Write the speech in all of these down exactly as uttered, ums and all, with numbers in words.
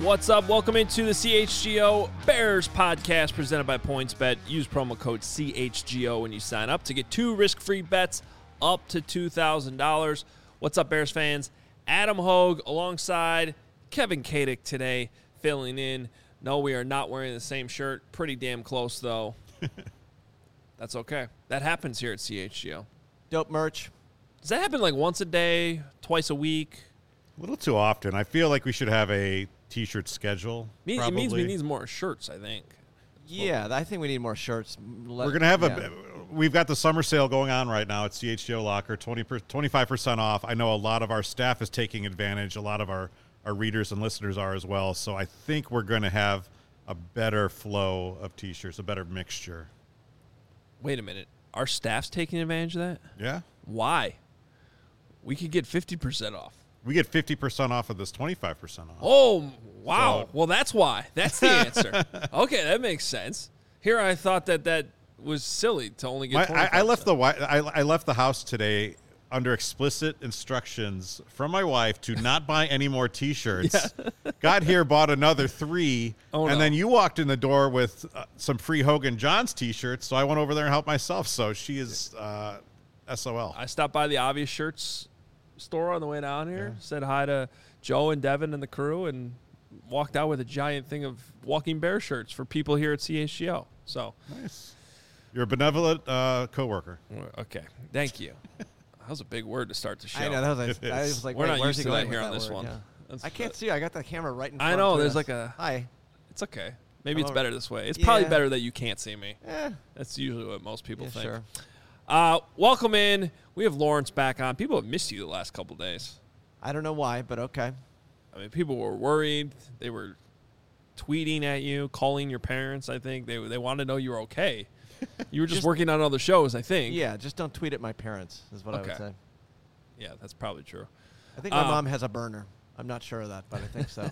What's up? Welcome into the C H G O Bears podcast presented by PointsBet. Use promo code C H G O when you sign up to get two risk-free bets up to two thousand dollars. What's up, Bears fans? Adam Hogue alongside Kevin Kadick today, filling in. No, we are not wearing the same shirt. Pretty damn close, though. That's okay. That happens here at C H G O. Dope merch. Does that happen like once a day, twice a week? A little too often. I feel like we should have a T-shirt schedule. Me- it probably. means we need more shirts, I think. Yeah, I think we need more shirts. Let, We're going to have yeah. a – we've got the summer sale going on right now at C H G O Locker, twenty per, twenty-five percent off. I know a lot of our staff is taking advantage. A lot of our, our readers and listeners are as well. So I think we're going to have a better flow of T-shirts, a better mixture. Wait a minute. Our staff's taking advantage of that? Yeah. Why? We could get fifty percent off. We get fifty percent off of this, twenty-five percent off. Oh, wow. So- well, that's why. That's the answer. Okay, that makes sense. Here I thought that that was silly to only get My, I, I left twenty-five percent. the wi- I, I left the house today under explicit instructions from my wife to not buy any more T-shirts. Got here, bought another three, Oh, and no. then you walked in the door with uh, some free Hogan Johns T-shirts. So I went over there and helped myself. So she is uh, S O L. I stopped by the Obvious Shirts store on the way down here, said hi to Joe and Devin and the crew, and walked out with a giant thing of Walking Bear shirts for people here at C H G O. So, Nice. You're a benevolent uh, coworker. okay. Thank you. That was a big word to start the show. I know. That was, It like, I is. was like, We're wait, not where's used he to that going here with on that this word? one. Yeah. That's- I can't see. I got the camera right in front I of know. me. There's like a. Hi. It's okay. Maybe it's Hello. better this way. It's probably Yeah. better that you can't see me. Eh, That's usually what most people yeah, think. sure. Uh, welcome in. We have Lawrence back on. People have missed you the last couple days. I don't know why, but okay. I mean, people were worried. They were tweeting at you, calling your parents. I think they they wanted to know you were okay. You were just, Just- working on other shows. I think. Yeah, just don't tweet at my parents is what I Okay. would say. Yeah, that's probably true. I think my Uh, mom has a burner. I'm not sure of that, but I think so.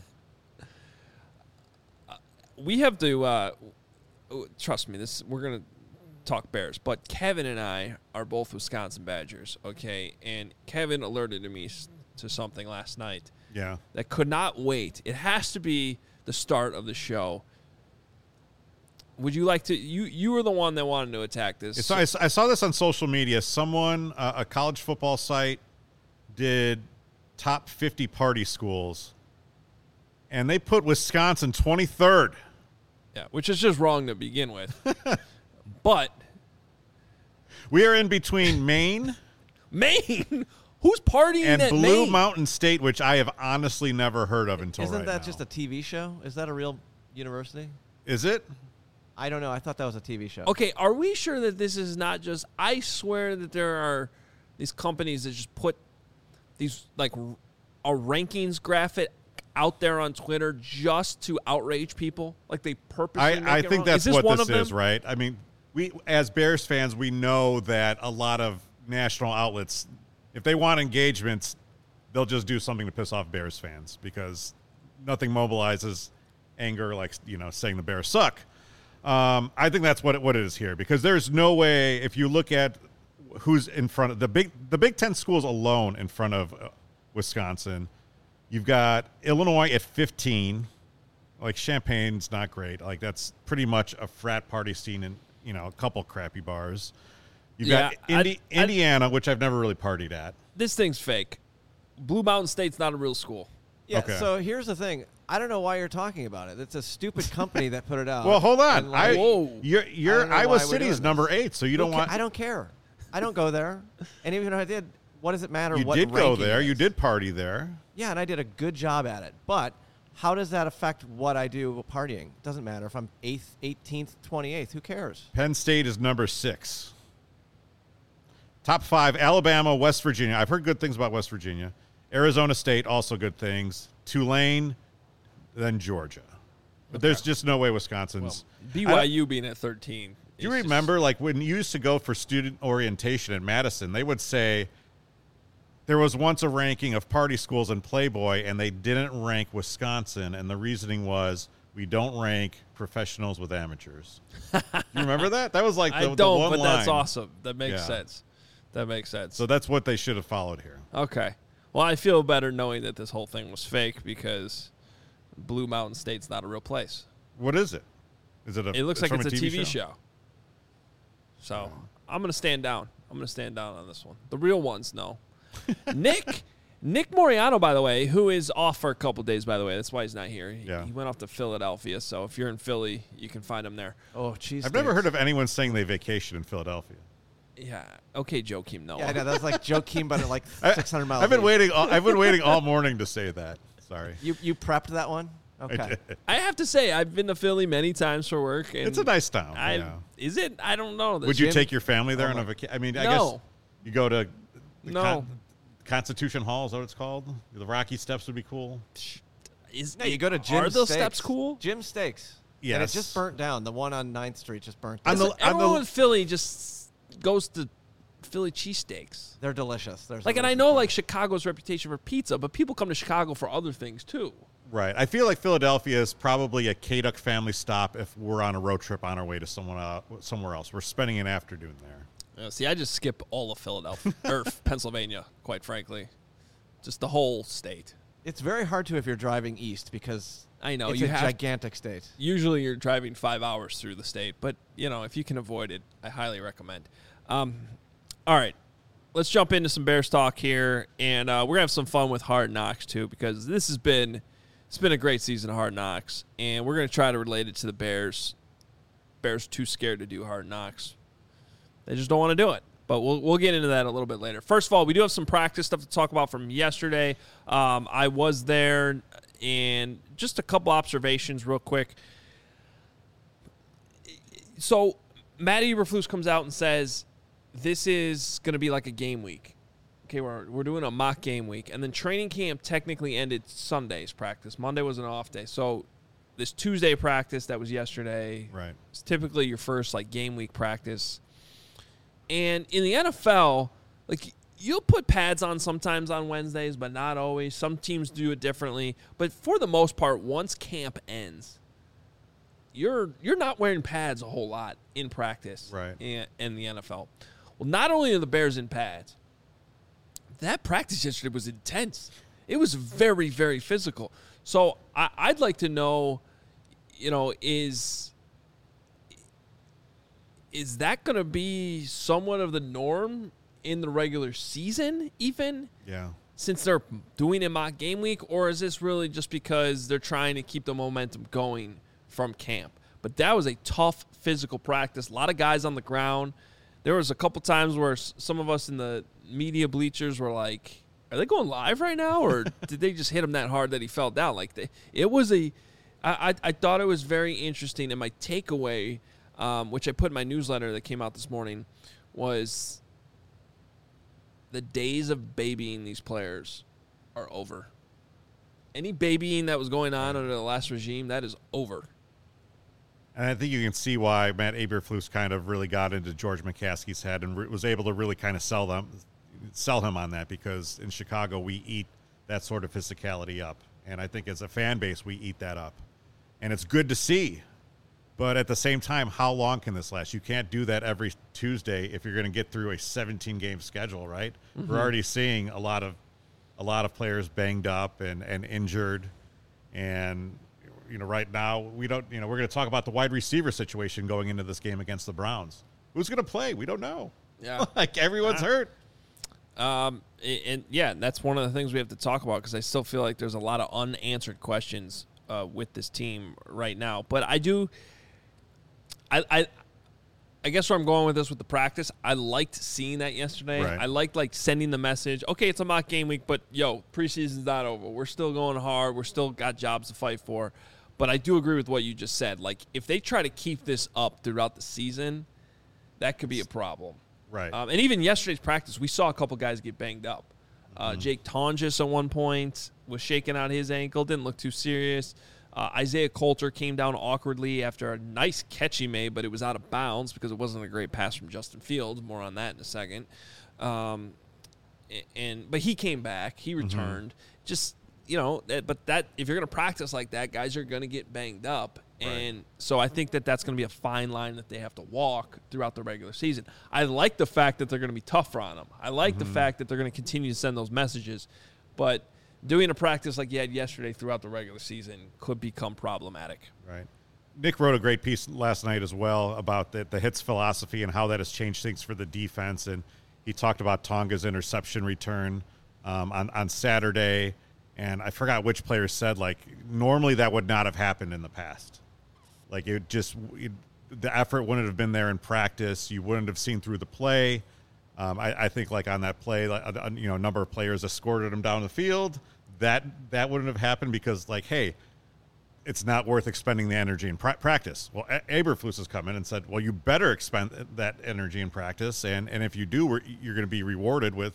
We have to uh, w- trust me. This we're gonna talk Bears, but Kevin and I are both Wisconsin Badgers. Okay, and Kevin alerted to me s- to something last night Yeah. that could not wait. It has to be the start of the show. Would you like to? You you were the one that wanted to attack this. So I, s- I saw this on social media. Someone, uh, a college football site, did top fifty party schools, and they put Wisconsin twenty-third. Yeah, which is just wrong to begin with. But We are in between Maine Maine, who's partying and at Blue Maine? Mountain State, which I have honestly never heard of until Isn't right that now. just a T V show? Is that a real university? Is it? I don't know. I thought that was a T V show. Okay, are we sure that this is not just? I swear that there are these companies that just put these like a rankings graphic out there on Twitter just to outrage people. Like they purposely. make I, I it think wrong? that's is this what one this of them? is, right? I mean, we as Bears fans, we know that a lot of national outlets, if they want engagements, they'll just do something to piss off Bears fans because nothing mobilizes anger like, you know, saying the Bears suck. Um, I think that's what it, what it is here because there's no way if you look at who's in front of the big the Big Ten schools alone in front of uh, Wisconsin. You've got Illinois at fifteen. Like Champagne's not great. Like that's pretty much a frat party scene in, you know, a couple crappy bars. You've got Yeah, Indi- I- I- Indiana, which I've never really partied at. This thing's fake. Blue Mountain State's not a real school. Yeah, Okay. so here's the thing. I don't know why you're talking about it. It's a stupid company that put it out. Well, hold on. And, like, I Whoa. you're I you're don't know Iowa why we're City's doing number this. eight, so you don't Who ca- want. I don't care. I don't go there. And even if I did, what does it matter you what did go ranking there. it You is? did party there. Yeah, and I did a good job at it. But how does that affect what I do with partying? It doesn't matter if I'm eighth, eighteenth, twenty-eighth. Who cares? Penn State is number six. Top five: Alabama, West Virginia. I've heard good things about West Virginia. Arizona State, also good things. Tulane, then Georgia. But there's just no way Wisconsin's. B Y U being at thirteen. Do you is just- remember, like, when you used to go for student orientation at Madison, they would say there was once a ranking of party schools in Playboy, and they didn't rank Wisconsin, and the reasoning was we don't rank professionals with amateurs. You remember that? That was like the, I the don't, one but that's line. awesome. That makes Yeah. sense. That makes sense. So that's what they should have followed here. Okay. Well, I feel better knowing that this whole thing was fake because Blue Mountain State's not a real place. What is it? Is it a? It looks like from it's a T V, show. show. So I'm going to stand down. I'm going to stand down on this one. The real ones, no. Nick Nick Moriano, by the way, who is off for a couple days, by the way. That's why he's not here. He, Yeah. he went off to Philadelphia. So if you're in Philly, you can find him there. Oh, cheese. I've never heard of anyone saying they vacation in Philadelphia. Yeah. Okay, Joakim Noah. Yeah, I know. That's like Joakim, but at like I- six hundred miles. I've been east. waiting. All, I've been waiting all morning to say that. Sorry. You you prepped that one? Okay. I have to say, I've been to Philly many times for work. And It's a nice town. I, yeah. Is it? I don't know. The Would you gym- take your family there Oh on a my- vacation? I mean, I No. guess you go to the No. Con- Constitution Hall. Is that what it's called? The Rocky Steps would be cool. Is, No, you go to Jim Are those Steaks. steps cool? Jim Steaks. And Yes. it just burnt down. The one on ninth Street just burnt On down. the- Listen, everyone the- in Philly just goes to Philly cheesesteaks. They're delicious. There's Like, and I know like Chicago's reputation for pizza, but people come to Chicago for other things too. Right. I feel like Philadelphia is probably a K-Duck family stop if we're on a road trip on our way to someone uh, somewhere else. We're spending an afternoon there. Uh, see, I just skip all of Philadelphia or Pennsylvania, quite frankly, just the whole state. It's very hard to if you're driving east because I know it's you a have. gigantic state. Usually, you're driving five hours through the state, but you know if you can avoid it, I highly recommend. Um, all right, let's jump into some Bears talk here, and uh, we're gonna have some fun with Hard Knocks too, because this has been it's been a great season of Hard Knocks, and we're gonna try to relate it to the Bears. Bears too scared to do Hard Knocks. They just don't want to do it. But we'll we'll get into that a little bit later. First of all, we do have some practice stuff to talk about from yesterday. Um, I was there, and just a couple observations real quick. So Matt Eberflus comes out and says, this is going to be like a game week. Okay, we're, we're doing a mock game week. And then training camp technically ended Sunday's practice. Monday was an off day. So this Tuesday practice that was yesterday Right. is typically your first like game week practice. And in the N F L, like you'll put pads on sometimes on Wednesdays, but not always. Some teams do it differently. But for the most part, once camp ends, you're you're not wearing pads a whole lot in practice Right. in, in the N F L. Well, not only are the Bears in pads, that practice yesterday was intense. It was very, very physical. So I, I'd like to know, you know, is is that going to be somewhat of the norm in the regular season, even Yeah. since they're doing a mock game week, or is this really just because they're trying to keep the momentum going from camp? But that was a tough physical practice. A lot of guys on the ground. There was a couple times where s- some of us in the media bleachers were like, are they going live right now, or did they just hit him that hard that he fell down? Like they, it was a, I, I, I thought it was very interesting, and my takeaway, um, which I put in my newsletter that came out this morning, was the days of babying these players are over. Any babying that was going on under the last regime, that is over. And I think you can see why Matt Eberflus kind of really got into George McCaskey's head and re- was able to really kind of sell them, sell him on that, because in Chicago we eat that sort of physicality up, and I think as a fan base we eat that up, and it's good to see. But at the same time, how long can this last? You can't do that every Tuesday if you're going to get through a seventeen game schedule, right? Mm-hmm. We're already seeing a lot of a lot of players banged up and, and injured, and you know, right now we don't. You know, we're going to talk about the wide receiver situation going into this game against the Browns. Who's going to play? We don't know. Yeah, like everyone's hurt. Um, and, and yeah, that's one of the things we have to talk about, because I still feel like there's a lot of unanswered questions uh, with this team right now. But I do. I, I I guess where I'm going with this with the practice, I liked seeing that yesterday. Right. I liked like sending the message, okay, it's a mock game week, but yo, preseason's not over. We're still going hard. We're still got jobs to fight for. But I do agree with what you just said. Like, if they try to keep this up throughout the season, that could be a problem. Right. Um, and even yesterday's practice, we saw a couple guys get banged up. Uh, Mm-hmm. Jake Tonjes at one point was shaking out his ankle, didn't look too serious. Uh, Isaiah Coulter came down awkwardly after a nice catch he made, but it was out of bounds because it wasn't a great pass from Justin Fields. More on that in a second. Um, and but he came back. He returned. Mm-hmm. Just, you know, that, but that if you're going to practice like that, guys are going to get banged up. Right. And so I think that that's going to be a fine line that they have to walk throughout the regular season. I like the fact that they're going to be tougher on them. I like mm-hmm. the fact that they're going to continue to send those messages. But doing a practice like you had yesterday throughout the regular season could become problematic. Right. Nick wrote a great piece last night as well about the, the hits philosophy and how that has changed things for the defense. And he talked about Tonga's interception return um, on, on Saturday. And I forgot which player said, like, normally that would not have happened in the past. Like, it just it, the effort wouldn't have been there in practice. You wouldn't have seen through the play. Um, I, I think, like, on that play, like, uh, you know, a number of players escorted him down the field. That that wouldn't have happened because, like, hey, it's not worth expending the energy in pra- practice. Well, a- Eberflus has come in and said, well, you better expend that energy in practice. And, and if you do, we're, you're going to be rewarded with,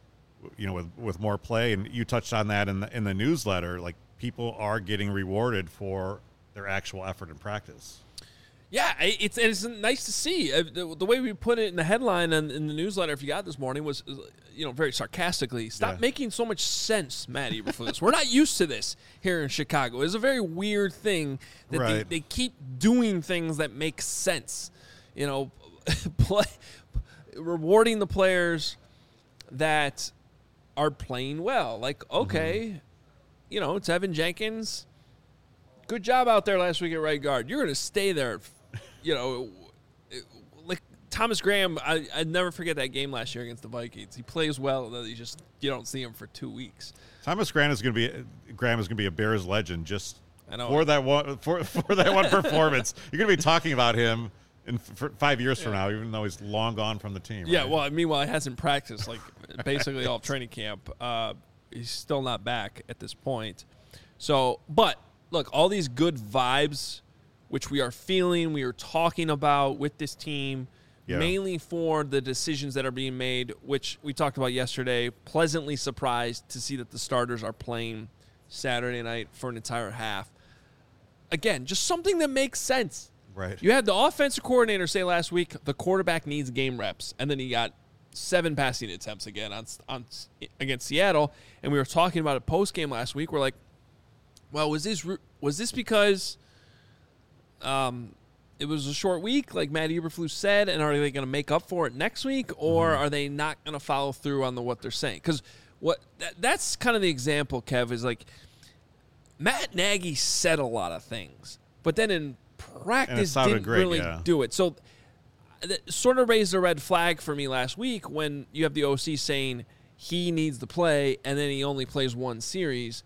you know, with, with more play. And you touched on that in the, in the newsletter. Like, people are getting rewarded for their actual effort in practice. Yeah, it's it's nice to see. The, the way we put it in the headline and in the newsletter, if you got it this morning, was, you know, very sarcastically, stop Yeah. making so much sense, Matt Eberflus. We're not used to this here in Chicago. It's a very weird thing that Right. they, they keep doing things that make sense. You know, play, rewarding the players that are playing well. Like, okay, mm-hmm. you know, Tevin Jenkins, good job out there last week at right guard. You're going to stay there. You know, like Thomas Graham, I I never forget that game last year against the Vikings. He plays well, and then you just you don't see him for two weeks. Thomas Graham is going to be Graham is going to be a Bears legend just I know. for that one for for that one performance. You're going to be talking about him in for five years yeah. from now, even though he's long gone from the team. Yeah, right? well, meanwhile, he hasn't practiced like basically all training camp. Uh, he's still not back at this point. So, but look, all these good vibes, which we are feeling, we are talking about with this team, yeah. mainly for the decisions that are being made, which we talked about yesterday. Pleasantly surprised to see that the starters are playing Saturday night for an entire half. Again, just something that makes sense. Right. You had the offensive coordinator say last week the quarterback needs game reps, and then he got seven passing attempts again on, on against Seattle. And we were talking about it post game last week. We're like, well, was this was this because um, it was a short week, like Matt Eberflus said, and are they going to make up for it next week, or mm-hmm. are they not going to follow through on the what they're saying? Because what that, that's kind of the example, Kev, is like Matt Nagy said a lot of things, but then in practice didn't great, really yeah. do it. So that sort of raised a red flag for me last week when you have the O C saying he needs to play, and then he only plays one series.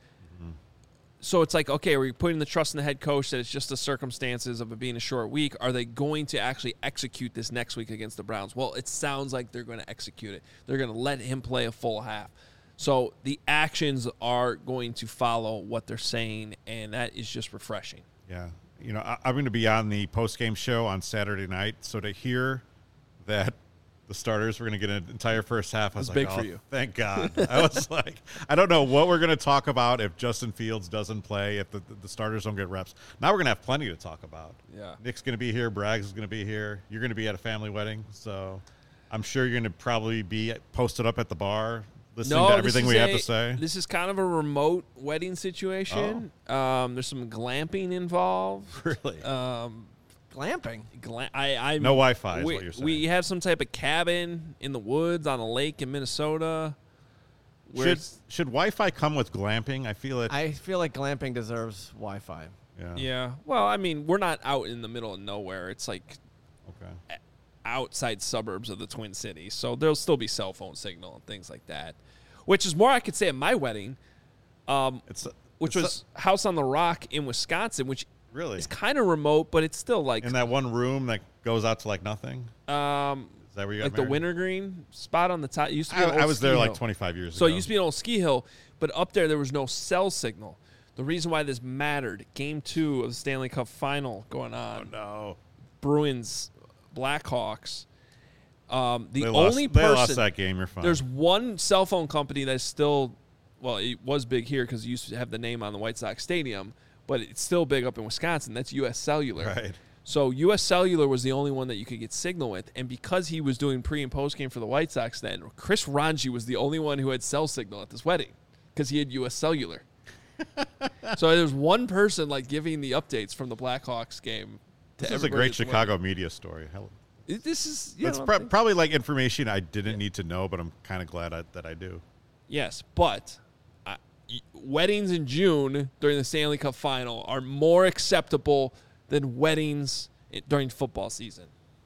So it's like, okay, are we putting the trust in the head coach that it's just the circumstances of it being a short week? Are they going to actually execute this next week against the Browns? Well, it sounds like they're going to execute it. They're going to let him play a full half. So the actions are going to follow what they're saying, and that is just refreshing. Yeah. You know, I, I'm going to be on the post-game show on Saturday night, so to hear that the starters were going to get an entire first half, I was That's like, big oh, for you. Thank God. I was like, I don't know what we're going to talk about if Justin Fields doesn't play, if the, the starters don't get reps. Now we're going to have plenty to talk about. Yeah. Nick's going to be here. Braggs is going to be here. You're going to be at a family wedding, so I'm sure you're going to probably be posted up at the bar listening no, to everything we a, have to say. This is kind of a remote wedding situation. Oh. Um, there's some glamping involved. Really? Um, Glamping? Gla- I, I, no Wi-Fi is we, what you're saying. We have some type of cabin in the woods on a lake in Minnesota. Should, should Wi-Fi come with glamping? I feel it. I feel like glamping deserves Wi-Fi. Yeah. Yeah. Well, I mean, we're not out in the middle of nowhere. It's like okay. outside suburbs of the Twin Cities. So there'll still be cell phone signal and things like that, which is more I could say at my wedding, um, it's a, which it's was a, House on the Rock in Wisconsin, which really is kind of remote, but it's still like in that one room that goes out to like nothing. Um, is that where you got like married? the wintergreen spot on the top? It used to be I, an old I was ski there hill. like twenty-five years so ago. So it used to be an old ski hill, but up there there was no cell signal. The reason why this mattered, game two of the Stanley Cup final going on. Oh, no. Bruins, Blackhawks. Um, the they only lost, person. They lost that game. You're fine. There's one cell phone company that's still, well, it was big here because it used to have the name on the White Sox Stadium, but it's still big up in Wisconsin. That's U S Cellular. Right. So U S Cellular was the only one that you could get signal with, and because he was doing pre and post game for the White Sox, then Chris Ranji was the only one who had cell signal at this wedding because he had U S Cellular. So there's one person like giving the updates from the Blackhawks game. To this is a great Chicago wedding. Media story. Hell, this is yeah, it's pr- probably like information I didn't yeah. need to know, but I'm kind of glad I, that I do. Yes, but I, weddings in June during the Stanley Cup Final are more acceptable than weddings during football season.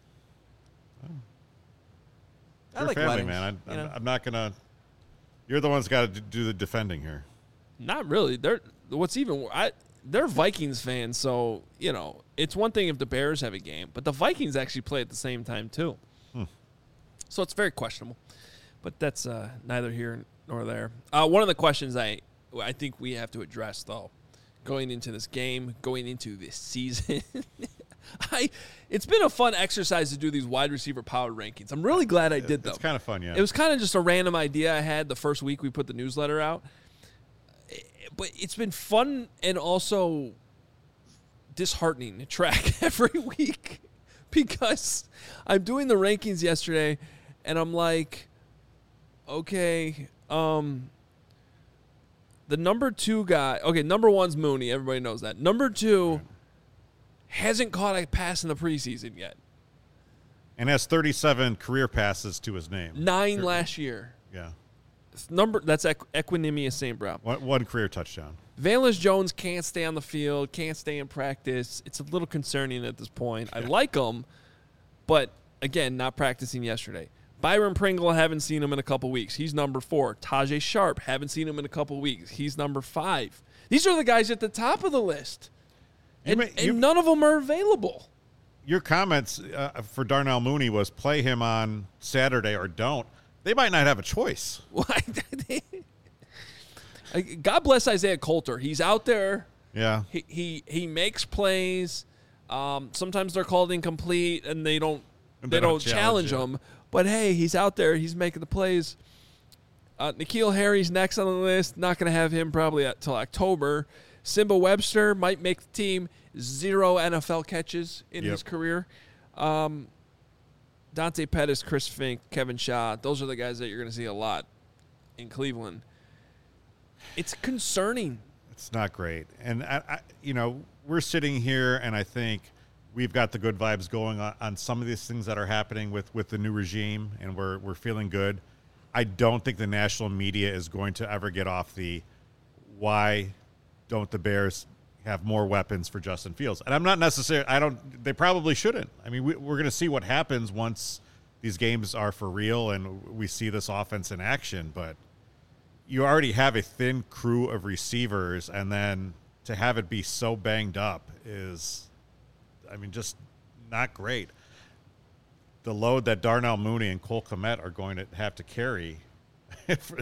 I Your like family, weddings, man. I, you I'm, know? I'm not gonna. You're the one's got to do the defending here. Not really. They're what's even I they're Vikings fans, so you know it's one thing if the Bears have a game, but the Vikings actually play at the same time too. Hmm. So it's very questionable. But that's uh, neither here nor there. Uh, one of the questions I I think we have to address though, going into this game, going into this season. I it's been a fun exercise to do these wide receiver power rankings. I'm really glad I did them. It's kind of fun, yeah. It was kind of just a random idea I had the first week we put the newsletter out. But it's been fun and also disheartening to track every week because I'm doing the rankings yesterday and I'm like, okay, um, the number two guy, okay, number one's Mooney. Everybody knows that. Number two right. hasn't caught a pass in the preseason yet. And has thirty-seven career passes to his name. Nine Here. last year. Yeah. Number That's Equ- Equinemius Saint Brown. One, one career touchdown. Valens Jones can't stay on the field, can't stay in practice. It's a little concerning at this point. I like him, but, again, not practicing yesterday. Byron Pringle, haven't seen him in a couple weeks. He's number four. Tajay Sharp, haven't seen him in a couple weeks. He's number five. These are the guys at the top of the list, and, may, and none of them are available. Your comments uh, for Darnell Mooney was play him on Saturday or don't. They might not have a choice. God bless Isaiah Coulter. He's out there. Yeah. He he, he makes plays. Um, sometimes they're called incomplete, and they don't And they, they don't, don't challenge, challenge him. But hey, he's out there. He's making the plays. Uh, N'Keal Harry's next on the list. Not going to have him probably until October. Simba Webster might make the team. Zero N F L catches in Yep. his career. Um, Dante Pettis, Chris Fink, Kevin Shaw. Those are the guys that you're going to see a lot in Cleveland. It's concerning. It's not great. And, I, I, you know, we're sitting here, and I think we've got the good vibes going on, on some of these things that are happening with, with the new regime, and we're we're feeling good. I don't think the national media is going to ever get off the why don't the Bears have more weapons for Justin Fields. And I'm not necessarily – I don't – they probably shouldn't. I mean, we, we're going to see what happens once these games are for real and we see this offense in action. But you already have a thin crew of receivers, and then to have it be so banged up is – I mean, just not great. The load that Darnell Mooney and Cole Kmet are going to have to carry is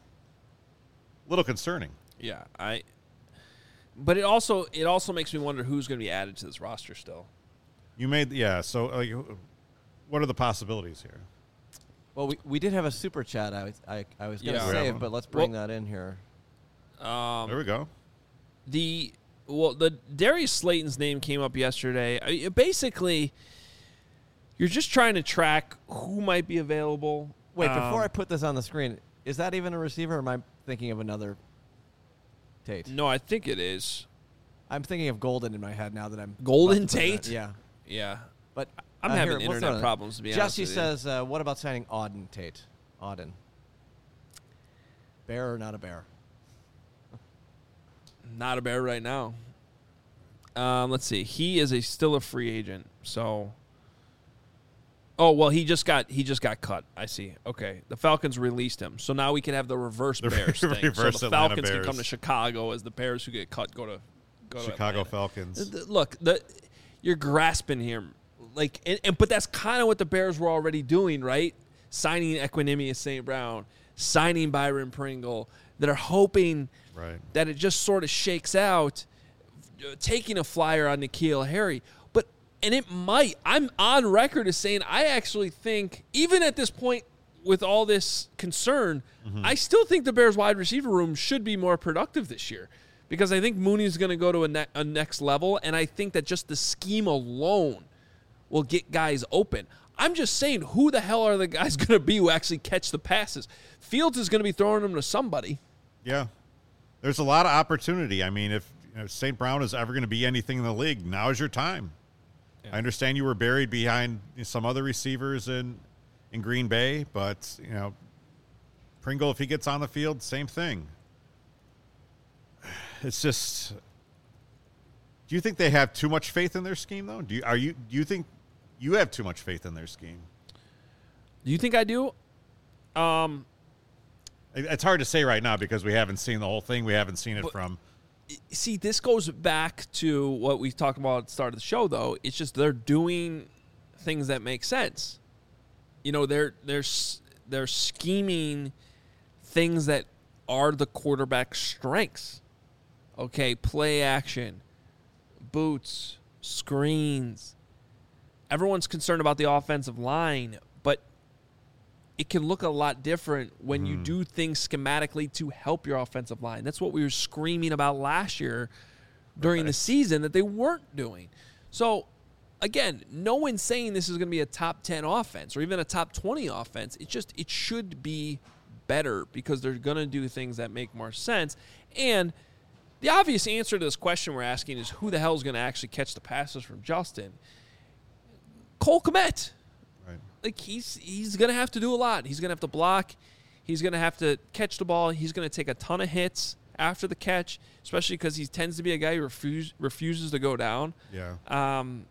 a little concerning. Yeah, I – but it also it also makes me wonder who's going to be added to this roster still. You made – yeah, so like, what are the possibilities here? Well, we, we did have a super chat I was, I, I was going to Yeah. save, but let's bring Well- that in here. Um, There we go. The well, the Darius Slayton's name came up yesterday. I, basically, you're just trying to track who might be available. Wait, Um, before I put this on the screen, is that even a receiver, or am I thinking of another Tate? No, I think it is I'm thinking of Golden in my head now that I'm Golden about to put Tate? that- Yeah, Yeah, but I'm uh, having here, we'll internet throw it. problems to be honest Jesse with you. says, uh, "What about signing Auden Tate? Auden, bear or not a bear?" Not a Bear right now. Um, let's see. He is a still a free agent. So, oh well, he just got he just got cut. I see. Okay, the Falcons released him, so now we can have the reverse The Bears thing. reverse so the Atlanta Falcons can Bears. come to Chicago as the Bears who get cut go to go to Chicago Atlanta. Falcons. Th- Look, the you're grasping here, like, and, and but that's kind of what the Bears were already doing, right? Signing Equinemius Saint Brown, signing Byron Pringle, that are hoping Right. that it just sort of shakes out, uh, taking a flyer on N'Keal Harry. But and it might. I'm on record as saying I actually think, even at this point, with all this concern, Mm-hmm. I still think the Bears wide receiver room should be more productive this year. Because I think Mooney's going to go to a, ne- a next level, and I think that just the scheme alone will get guys open. I'm just saying, who the hell are the guys going to be who actually catch the passes? Fields is going to be throwing them to somebody. Yeah. There's a lot of opportunity. I mean, if you know, Saint Brown is ever going to be anything in the league, now is your time. Yeah. I understand you were buried behind some other receivers in in Green Bay, but, you know, Pringle, if he gets on the field, same thing. it's just. Do you think they have too much faith in their scheme, though? Do you are you do you think you have too much faith in their scheme? Do you think I do? Um, it's hard to say right now because we haven't seen the whole thing. We haven't seen it but, from. See, this goes back to what we talked about at the start of the show, though. It's just they're doing things that make sense. You know, they're they're they're scheming things that are the quarterback's strengths. Okay, play action, boots, screens. Everyone's concerned about the offensive line, but it can look a lot different when mm. you do things schematically to help your offensive line. That's what we were screaming about last year during right. the season that they weren't doing. So, again, no one's saying this is going to be a top ten offense or even a top twenty offense. It just it should be better because they're going to do things that make more sense. And the obvious answer to this question we're asking is who the hell is going to actually catch the passes from Justin? Cole Kmet. Right. Like, he's he's going to have to do a lot. He's going to have to block. He's going to have to catch the ball. He's going to take a ton of hits after the catch, especially because he tends to be a guy who refuse, refuses to go down. Yeah. Um,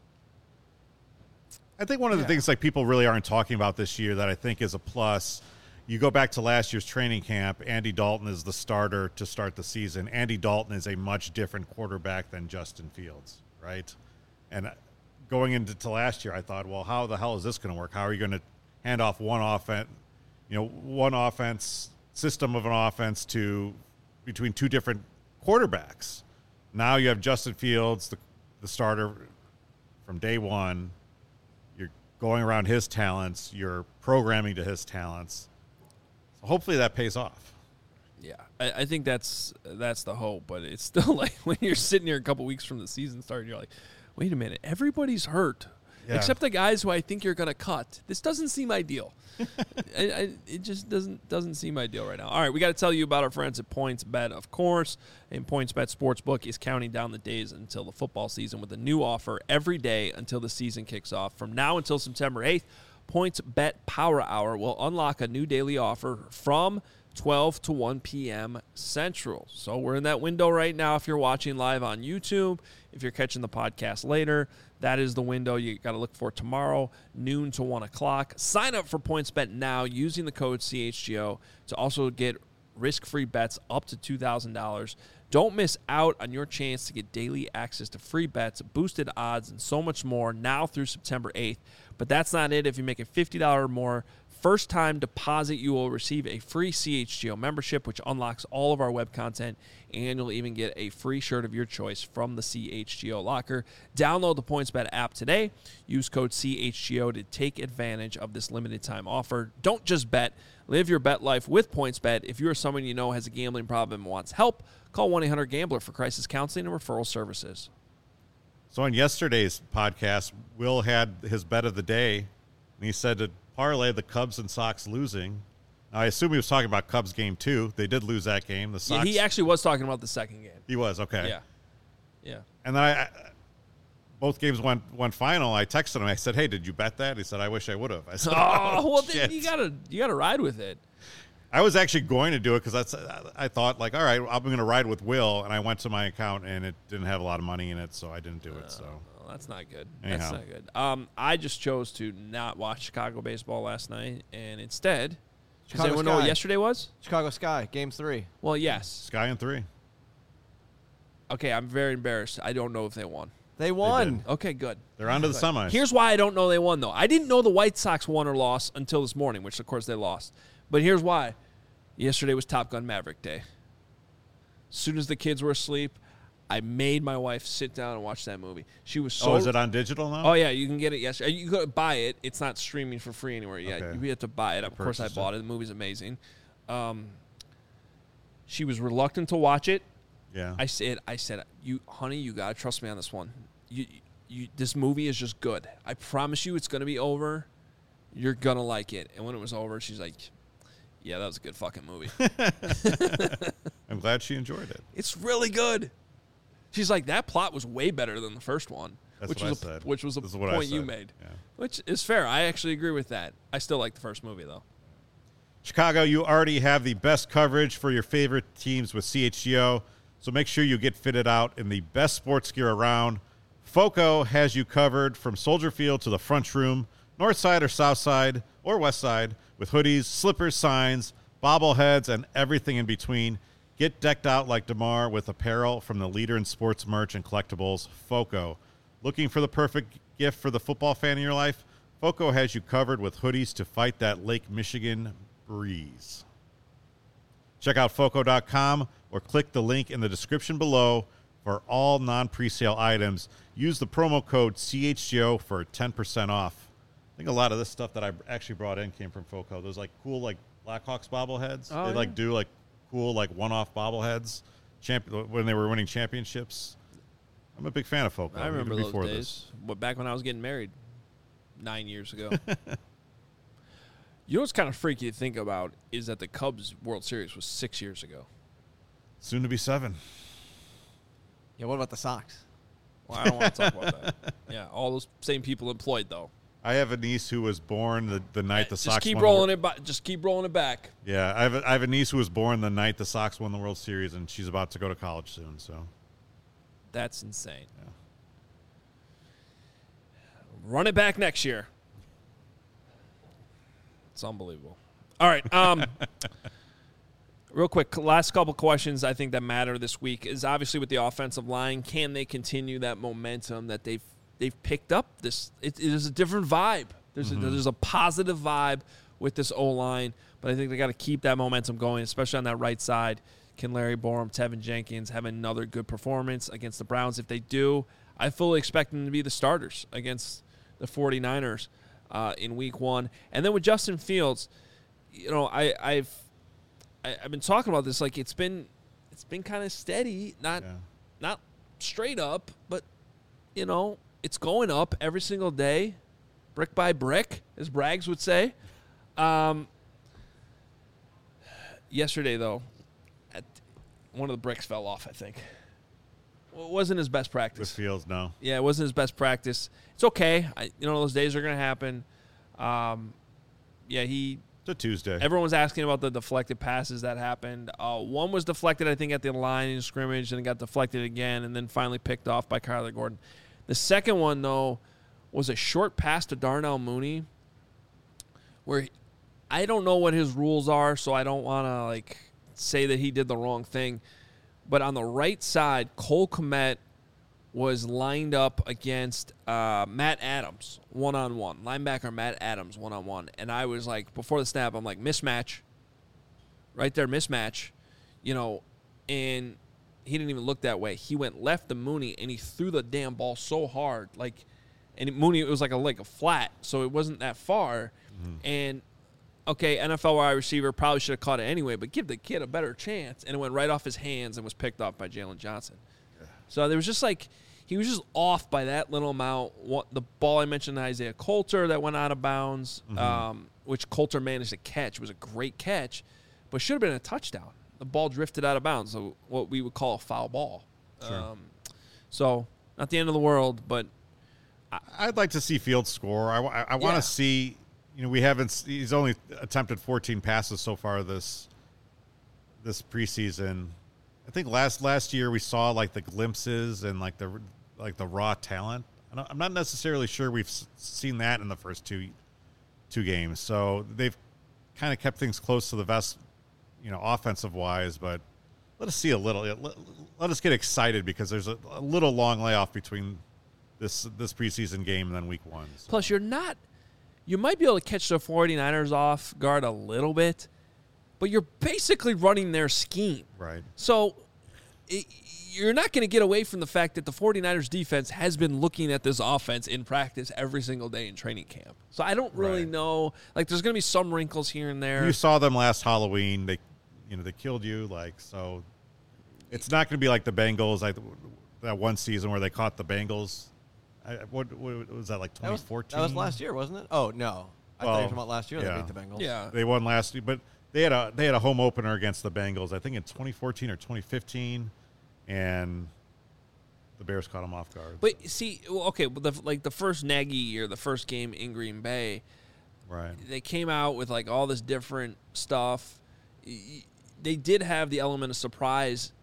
I think one of the yeah. things like people really aren't talking about this year that I think is a plus, you go back to last year's training camp, Andy Dalton is the starter to start the season. Andy Dalton is a much different quarterback than Justin Fields, right? And going into to last year, I thought, well, how the hell is this going to work? How are you going to hand off one offense, you know, one offense system of an offense to between two different quarterbacks? Now you have Justin Fields, the, the starter from day one. You're going around his talents. You're programming to his talents. So hopefully that pays off. Yeah, I, I think that's that's the hope. But it's still like when you're sitting here a couple weeks from the season starting, you're like, wait a minute, everybody's hurt. Yeah. Except the guys who I think you're going to cut. This doesn't seem ideal. I, I, it just doesn't doesn't seem ideal right now. All right, we got to tell you about our friends at PointsBet, of course. And PointsBet Sportsbook is counting down the days until the football season with a new offer every day until the season kicks off. From now until September eighth, PointsBet Power Hour will unlock a new daily offer from twelve to one p.m. Central. So we're in that window right now if you're watching live on YouTube. If you're catching the podcast later, that is the window you got to look for tomorrow, noon to one o'clock. Sign up for PointsBet now using the code C H G O to also get risk-free bets up to two thousand dollars. Don't miss out on your chance to get daily access to free bets, boosted odds, and so much more now through September eighth. But that's not it. If you make a fifty dollars or more first-time deposit, you will receive a free C H G O membership, which unlocks all of our web content, and you'll even get a free shirt of your choice from the C H G O locker. Download the PointsBet app today. Use code C H G O to take advantage of this limited-time offer. Don't just bet. Live your bet life with PointsBet. If you're someone you know has a gambling problem and wants help, call one eight hundred gambler for crisis counseling and referral services. So on yesterday's podcast, Will had his bet of the day, and he said to parlay the Cubs and Sox losing. Now, I assume he was talking about Cubs game two. They did lose that game. The Sox. Yeah, he actually was talking about the second game. He was, okay. Yeah. Yeah. And then I, I both games went went final. I texted him. I said, "Hey, did you bet that?" He said, "I wish I would have." I said, "Oh, oh well, shit. then you gotta you gotta ride with it." I was actually going to do it because that's I thought like, all right, I'm going to ride with Will, and I went to my account and it didn't have a lot of money in it, so I didn't do it. So well, that's not good. Anyhow. That's not good. Um, I just chose to not watch Chicago baseball last night, and instead, does Chicago anyone know Sky. what yesterday was? Chicago Sky, game three. Well, yes. Sky in three. Okay, I'm very embarrassed. I don't know if they won. They won. They Okay, good. They're on to the semis. Here's why I don't know they won, though. I didn't know the White Sox won or lost until this morning, which, of course, they lost. But here's why. Yesterday was Top Gun Maverick Day. As soon as the kids were asleep, I made my wife sit down and watch that movie. She was so. Oh, is it on digital now? Oh yeah, you can get it yesterday. You can buy it. It's not streaming for free anywhere yet. Okay. You have to buy it. Of course, I bought it. it. The movie's amazing. Um, she was reluctant to watch it. Yeah. I said, I said, you, honey, you gotta trust me on this one. You, you, this movie is just good. I promise you, it's gonna be over. You're gonna like it. And when it was over, she's like, yeah, that was a good fucking movie. I'm glad she enjoyed it. It's really good. She's like, that plot was way better than the first one. That's which what was I a, said. Which was a This is what I point you said. made. Yeah. Which is fair. I actually agree with that. I still like the first movie, though. Chicago, you already have the best coverage for your favorite teams with C H G O. So make sure you get fitted out in the best sports gear around. FOCO has you covered from Soldier Field to the front room, north side or south side or west side, with hoodies, slippers, signs, bobbleheads, and everything in between. Get decked out like DeMar with apparel from the leader in sports merch and collectibles, FOCO. Looking for the perfect gift for the football fan in your life? FOCO has you covered with hoodies to fight that Lake Michigan breeze. Check out foco dot com or click the link in the description below for all non-presale items. Use the promo code C H G O for ten percent off. I think a lot of this stuff that I actually brought in came from FOCO. Those like cool like Blackhawks bobbleheads. Oh, they yeah. like do like cool like one-off bobbleheads champ- when they were winning championships. I'm a big fan of FOCO. I remember even those before days. this. But back when I was getting married nine years ago. You know what's kind of freaky to think about is that the Cubs World Series was six years ago. Soon to be seven. Yeah, what about the Sox? Well, I don't want to talk about that. Yeah, all those same people employed, though. I have a niece who was born the, the night the just Sox keep won rolling the, it back. Just keep rolling it back. Yeah, I have, a, I have a niece who was born the night the Sox won the World Series, and she's about to go to college soon. So That's insane. Yeah. Run it back next year. It's unbelievable. All right. Um, real quick, last couple questions I think that matter this week is obviously with the offensive line. Can they continue that momentum that they've they've picked up? This it, it is a different vibe. There's Mm-hmm. a, there's a positive vibe with this O line, but I think they got to keep that momentum going, especially on that right side. Can Larry Borum, Tevin Jenkins have another good performance against the Browns? If they do, I fully expect them to be the starters against the 49ers uh, in week one. And then with Justin Fields, you know, I, I've I, I've been talking about this. Like it's been it's been kind of steady, not Yeah. not straight up, but you know, it's going up every single day, brick by brick, as Braggs would say. Um, yesterday, though, at, one of the bricks fell off, I think. Well, it wasn't his best with practice. Fields, no. Yeah, it wasn't his best practice. It's okay. I, you know, those days are going to happen. Um, yeah, he It's a Tuesday. Everyone was asking about the deflected passes that happened. Uh, one was deflected, I think, at the line in scrimmage, and it got deflected again, and then finally picked off by Kyler Gordon. The second one, though, was a short pass to Darnell Mooney, where he, I don't know what his rules are, so I don't want to like say that he did the wrong thing. But on the right side, Cole Kmet was lined up against uh, Matt Adams one-on-one. Linebacker Matt Adams one-on-one. And I was like, before the snap, I'm like, mismatch. Right there, mismatch. You know, and he didn't even look that way. He went left to Mooney, and he threw the damn ball so hard. Like, and Mooney, it was like a, like a flat, so it wasn't that far. Mm-hmm. And, okay, N F L wide receiver probably should have caught it anyway, but give the kid a better chance. And it went right off his hands and was picked up by Jalen Johnson. So there was just like, he was just off by that little amount. What, the ball I mentioned, Isaiah Coulter, that went out of bounds, mm-hmm. um, which Coulter managed to catch. It was a great catch, but should have been a touchdown. The ball drifted out of bounds, so what we would call a foul ball. Sure. Um, so not the end of the world, but I, I'd like to see Fields score. I, I, I want to Yeah. see, you know, we haven't, he's only attempted fourteen passes so far this this preseason. I think last last year we saw like the glimpses and like the like the raw talent. I don't, I'm not necessarily sure we've s- seen that in the first two two games. So they've kind of kept things close to the vest, you know, offensive wise. But let us see a little. Let, let us get excited because there's a, a little long layoff between this this preseason game and then week one. So. plus you're not – you might be able to catch the 49ers off guard a little bit, but you're basically running their scheme. Right. So it, you're not going to get away from the fact that the 49ers defense has been looking at this offense in practice every single day in training camp. So I don't really Right. know. Like, there's going to be some wrinkles here and there. You saw them last Halloween. They, you know, they killed you. Like, so it's not going to be like the Bengals, like that one season where they caught the Bengals. I, what, what was that, like That was, twenty fourteen? that was last year, wasn't it? Oh, no. I thought you Well, were talking about last year yeah. they beat the Bengals. Yeah. They won last year, but they had a they had a home opener against the Bengals, I think in twenty fourteen or twenty fifteen, and the Bears caught them off guard. But see, well, okay, but the, like the first Nagy year, the first game in Green Bay, Right. they came out with like all this different stuff. Y- They did have the element of surprise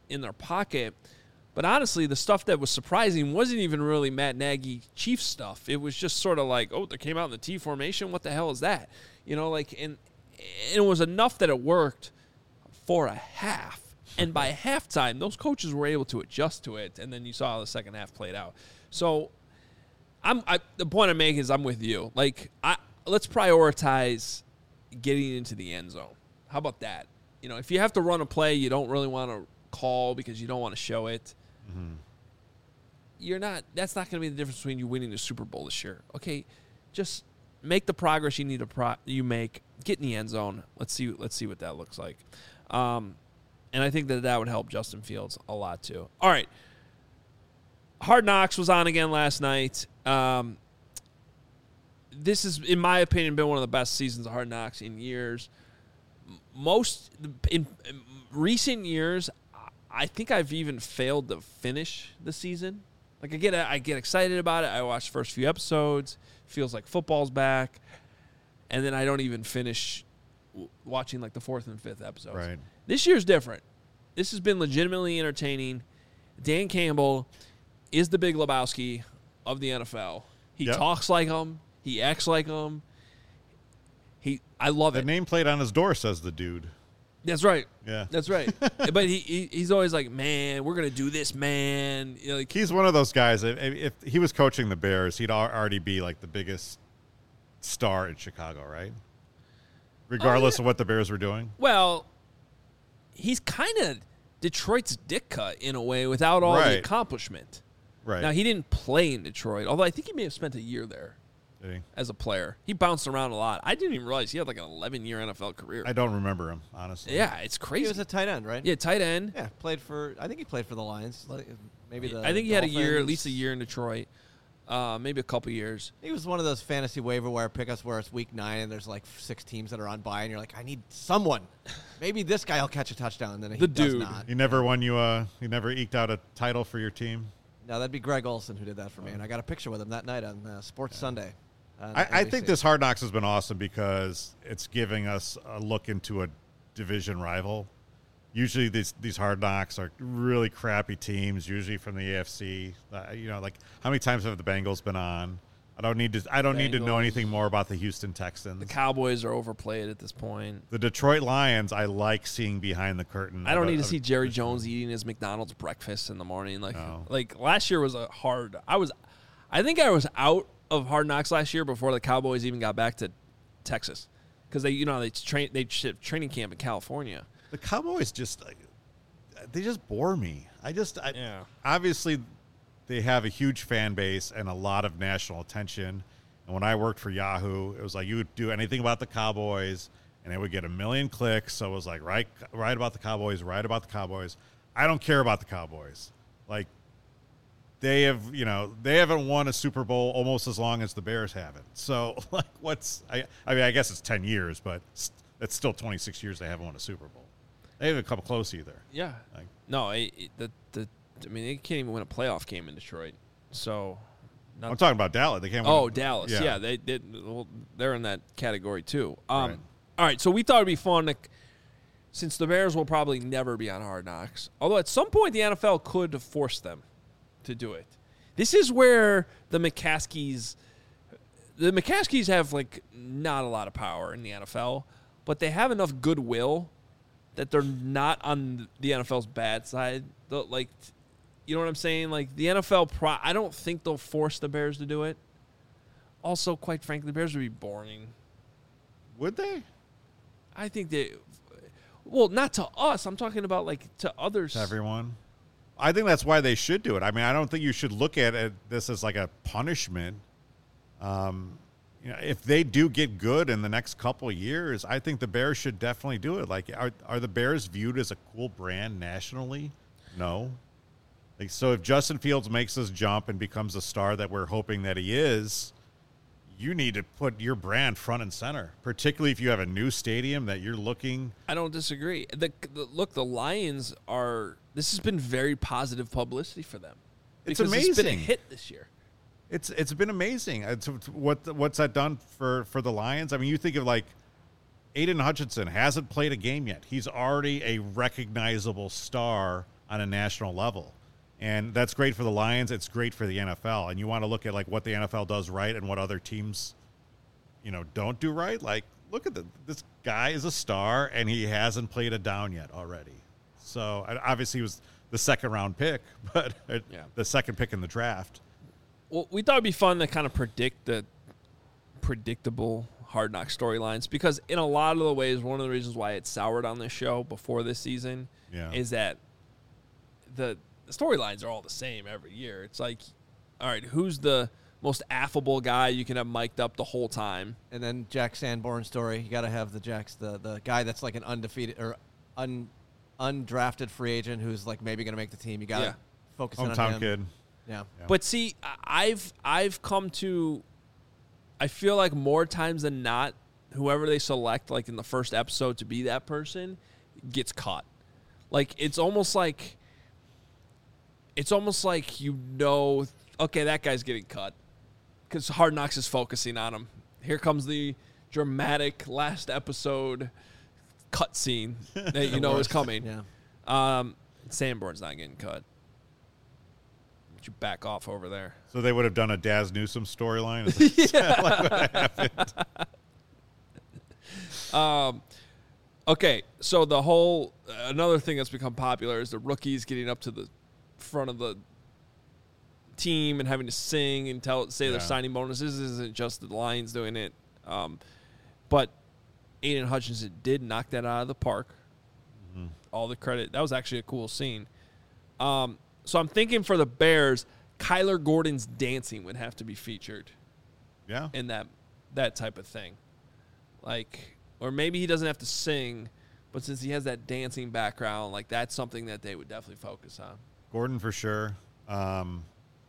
in their pocket. But honestly, the stuff that was surprising wasn't even really Matt Nagy Chiefs stuff. It was just sort of like, oh, they came out in the T formation. What the hell is that? You know, like, and, and it was enough that it worked for a half. And by halftime, those coaches were able to adjust to it, and then you saw how the second half played out. So, I'm I, the point I'm making is I'm with you. Like, I let's prioritize getting into the end zone. How about that? You know, if you have to run a play you don't really want to call because you don't want to show it, mm-hmm. you're not. That's not going to be the difference between you winning the Super Bowl this year. Okay, just make the progress you need to pro- you make. Get in the end zone. Let's see. Let's see what that looks like. Um, and I think that that would help Justin Fields a lot too. All right. Hard Knocks was on again last night. Um, this has, in my opinion, been one of the best seasons of Hard Knocks in years. Most in, in recent years, I think I've even failed to finish the season. Like I get, I get excited about it. I watch the first few episodes. Feels like football's back, and then I don't even finish watching like the fourth and fifth episodes. Right. This year's different. This has been legitimately entertaining. Dan Campbell is the Big Lebowski of the N F L. He yep. talks like him. He acts like him. He, I love the it. The nameplate on his door says the dude. That's right. Yeah. That's right. But he, he he's always like, man, we're going to do this, man. You know, like, he's one of those guys. If, if he was coaching the Bears, he'd already be like the biggest star in Chicago, right? Regardless oh, yeah. of what the Bears were doing. Well, he's kind of Detroit's dick cut in a way without all right. the accomplishment. Right. Now, he didn't play in Detroit, although I think he may have spent a year there. As a player. He bounced around a lot. I didn't even realize he had like an eleven-year N F L career. I don't remember him, honestly. Yeah, it's crazy. He was a tight end, right? Yeah, tight end. Yeah, played for, I think he played for the Lions. Like, maybe the I think he Dolphins. had a year, at least a year in Detroit. Uh, maybe a couple years. He was one of those fantasy waiver wire pickups where it's week nine and there's like six teams that are on bye and you're like, I need someone. Maybe this guy will catch a touchdown. And then he the does dude. not. He never won you a, he never eked out a title for your team? No, that'd be Greg Olson who did that for me. And I got a picture with him that night on uh, Sports yeah. Sunday. I, I think this Hard Knocks has been awesome because it's giving us a look into a division rival. Usually these these Hard Knocks are really crappy teams, usually from the A F C. Uh, you know, like how many times have the Bengals been on? I don't need to. I don't Bengals. need to know anything more about the Houston Texans. The Cowboys are overplayed at this point. The Detroit Lions, I like seeing behind the curtain. I don't of, need to of, see Jerry Jones eating his McDonald's breakfast in the morning. Like, no. like last year was a hard. I was, I think I was out of Hard Knocks last year before the Cowboys even got back to Texas, because they, you know, they train they shipped training camp in California. The Cowboys just, they just bore me. I just, I, yeah. Obviously, they have a huge fan base and a lot of national attention. And when I worked for Yahoo, it was like you would do anything about the Cowboys, and it would get a million clicks. So it was like, right, right about the Cowboys, right about the Cowboys. I don't care about the Cowboys. Like, they have, you know, they haven't won a Super Bowl almost as long as the Bears haven't. So, like, what's, I, I mean, I guess it's ten years, but it's still twenty-six years they haven't won a Super Bowl. They haven't come close either. Yeah. Like, no, it, it, the, the, I mean, they can't even win a playoff game in Detroit. So, I'm talking about Dallas. They can't win. Oh, a, Dallas. Yeah, yeah they did. Well, they're in that category too. Um, right. All right, so we thought it'd be fun to, since the Bears will probably never be on Hard Knocks, although at some point the N F L could force them to do it. This is where the McCaskies, the McCaskies have like not a lot of power in the N F L, but they have enough goodwill that they're not on the N F L's bad side. They'll, like, you know what I'm saying? Like the N F L, pro- I don't think they'll force the Bears to do it. Also, quite frankly, the Bears would be boring. Would they? I think they, well, not to us. I'm talking about like to others. To everyone. I think that's why they should do it. I mean, I don't think you should look at it, this as like a punishment. Um, you know, if they do get good in the next couple of years, I think the Bears should definitely do it. Like, are are the Bears viewed as a cool brand nationally? No. Like, so if Justin Fields makes this jump and becomes a star that we're hoping that he is, you need to put your brand front and center, particularly if you have a new stadium that you're looking. I don't disagree. The, the look, the Lions are. This has been very positive publicity for them. It's because amazing. It's been a hit this year. It's it's been amazing. It's, what what's that done for, for the Lions? I mean, you think of like Aiden Hutchinson hasn't played a game yet. He's already a recognizable star on a national level. And that's great for the Lions. It's great for the N F L. And you want to look at like what the N F L does right and what other teams, you know, don't do right. Like, look at the, this guy is a star, and he hasn't played a down yet already. So obviously he was the second round pick, but yeah. the second pick in the draft. Well, we thought it'd be fun to kind of predict the predictable Hard Knock storylines, because in a lot of the ways, one of the reasons why it soured on this show before this season yeah. is that the, the storylines are all the same every year. It's like, all right, who's the most affable guy you can have mic'd up the whole time? And then Jack Sanborn story. You got to have the Jack's the the guy that's like an undefeated or un undrafted free agent who's like maybe going to make the team. You got to yeah. focus Hometown on him. kid. Yeah. yeah. But see, I've I've come to, I feel like more times than not, whoever they select, like in the first episode to be that person, gets caught. Like it's almost like, it's almost like you know, okay, that guy's getting cut, because Hard Knocks is focusing on him. Here comes the dramatic last episode cut scene that you know is coming. Yeah. Um, Sanborn's not getting cut. You back off over there. So they would have done a Daz Newsome storyline? Is that like what happened? Um, okay, so the whole, another thing that's become popular is the rookies getting up to the front of the team and having to sing and tell say yeah. their signing bonuses. This isn't just the Lions doing it. Um, but Aiden Hutchinson did knock that out of the park. Mm-hmm. All the credit. That was actually a cool scene. Um, so I'm thinking for the Bears, Kyler Gordon's dancing would have to be featured. Yeah. In that that type of thing. Like, or maybe he doesn't have to sing, but since he has that dancing background, like that's something that they would definitely focus on. Gordon for sure. Um,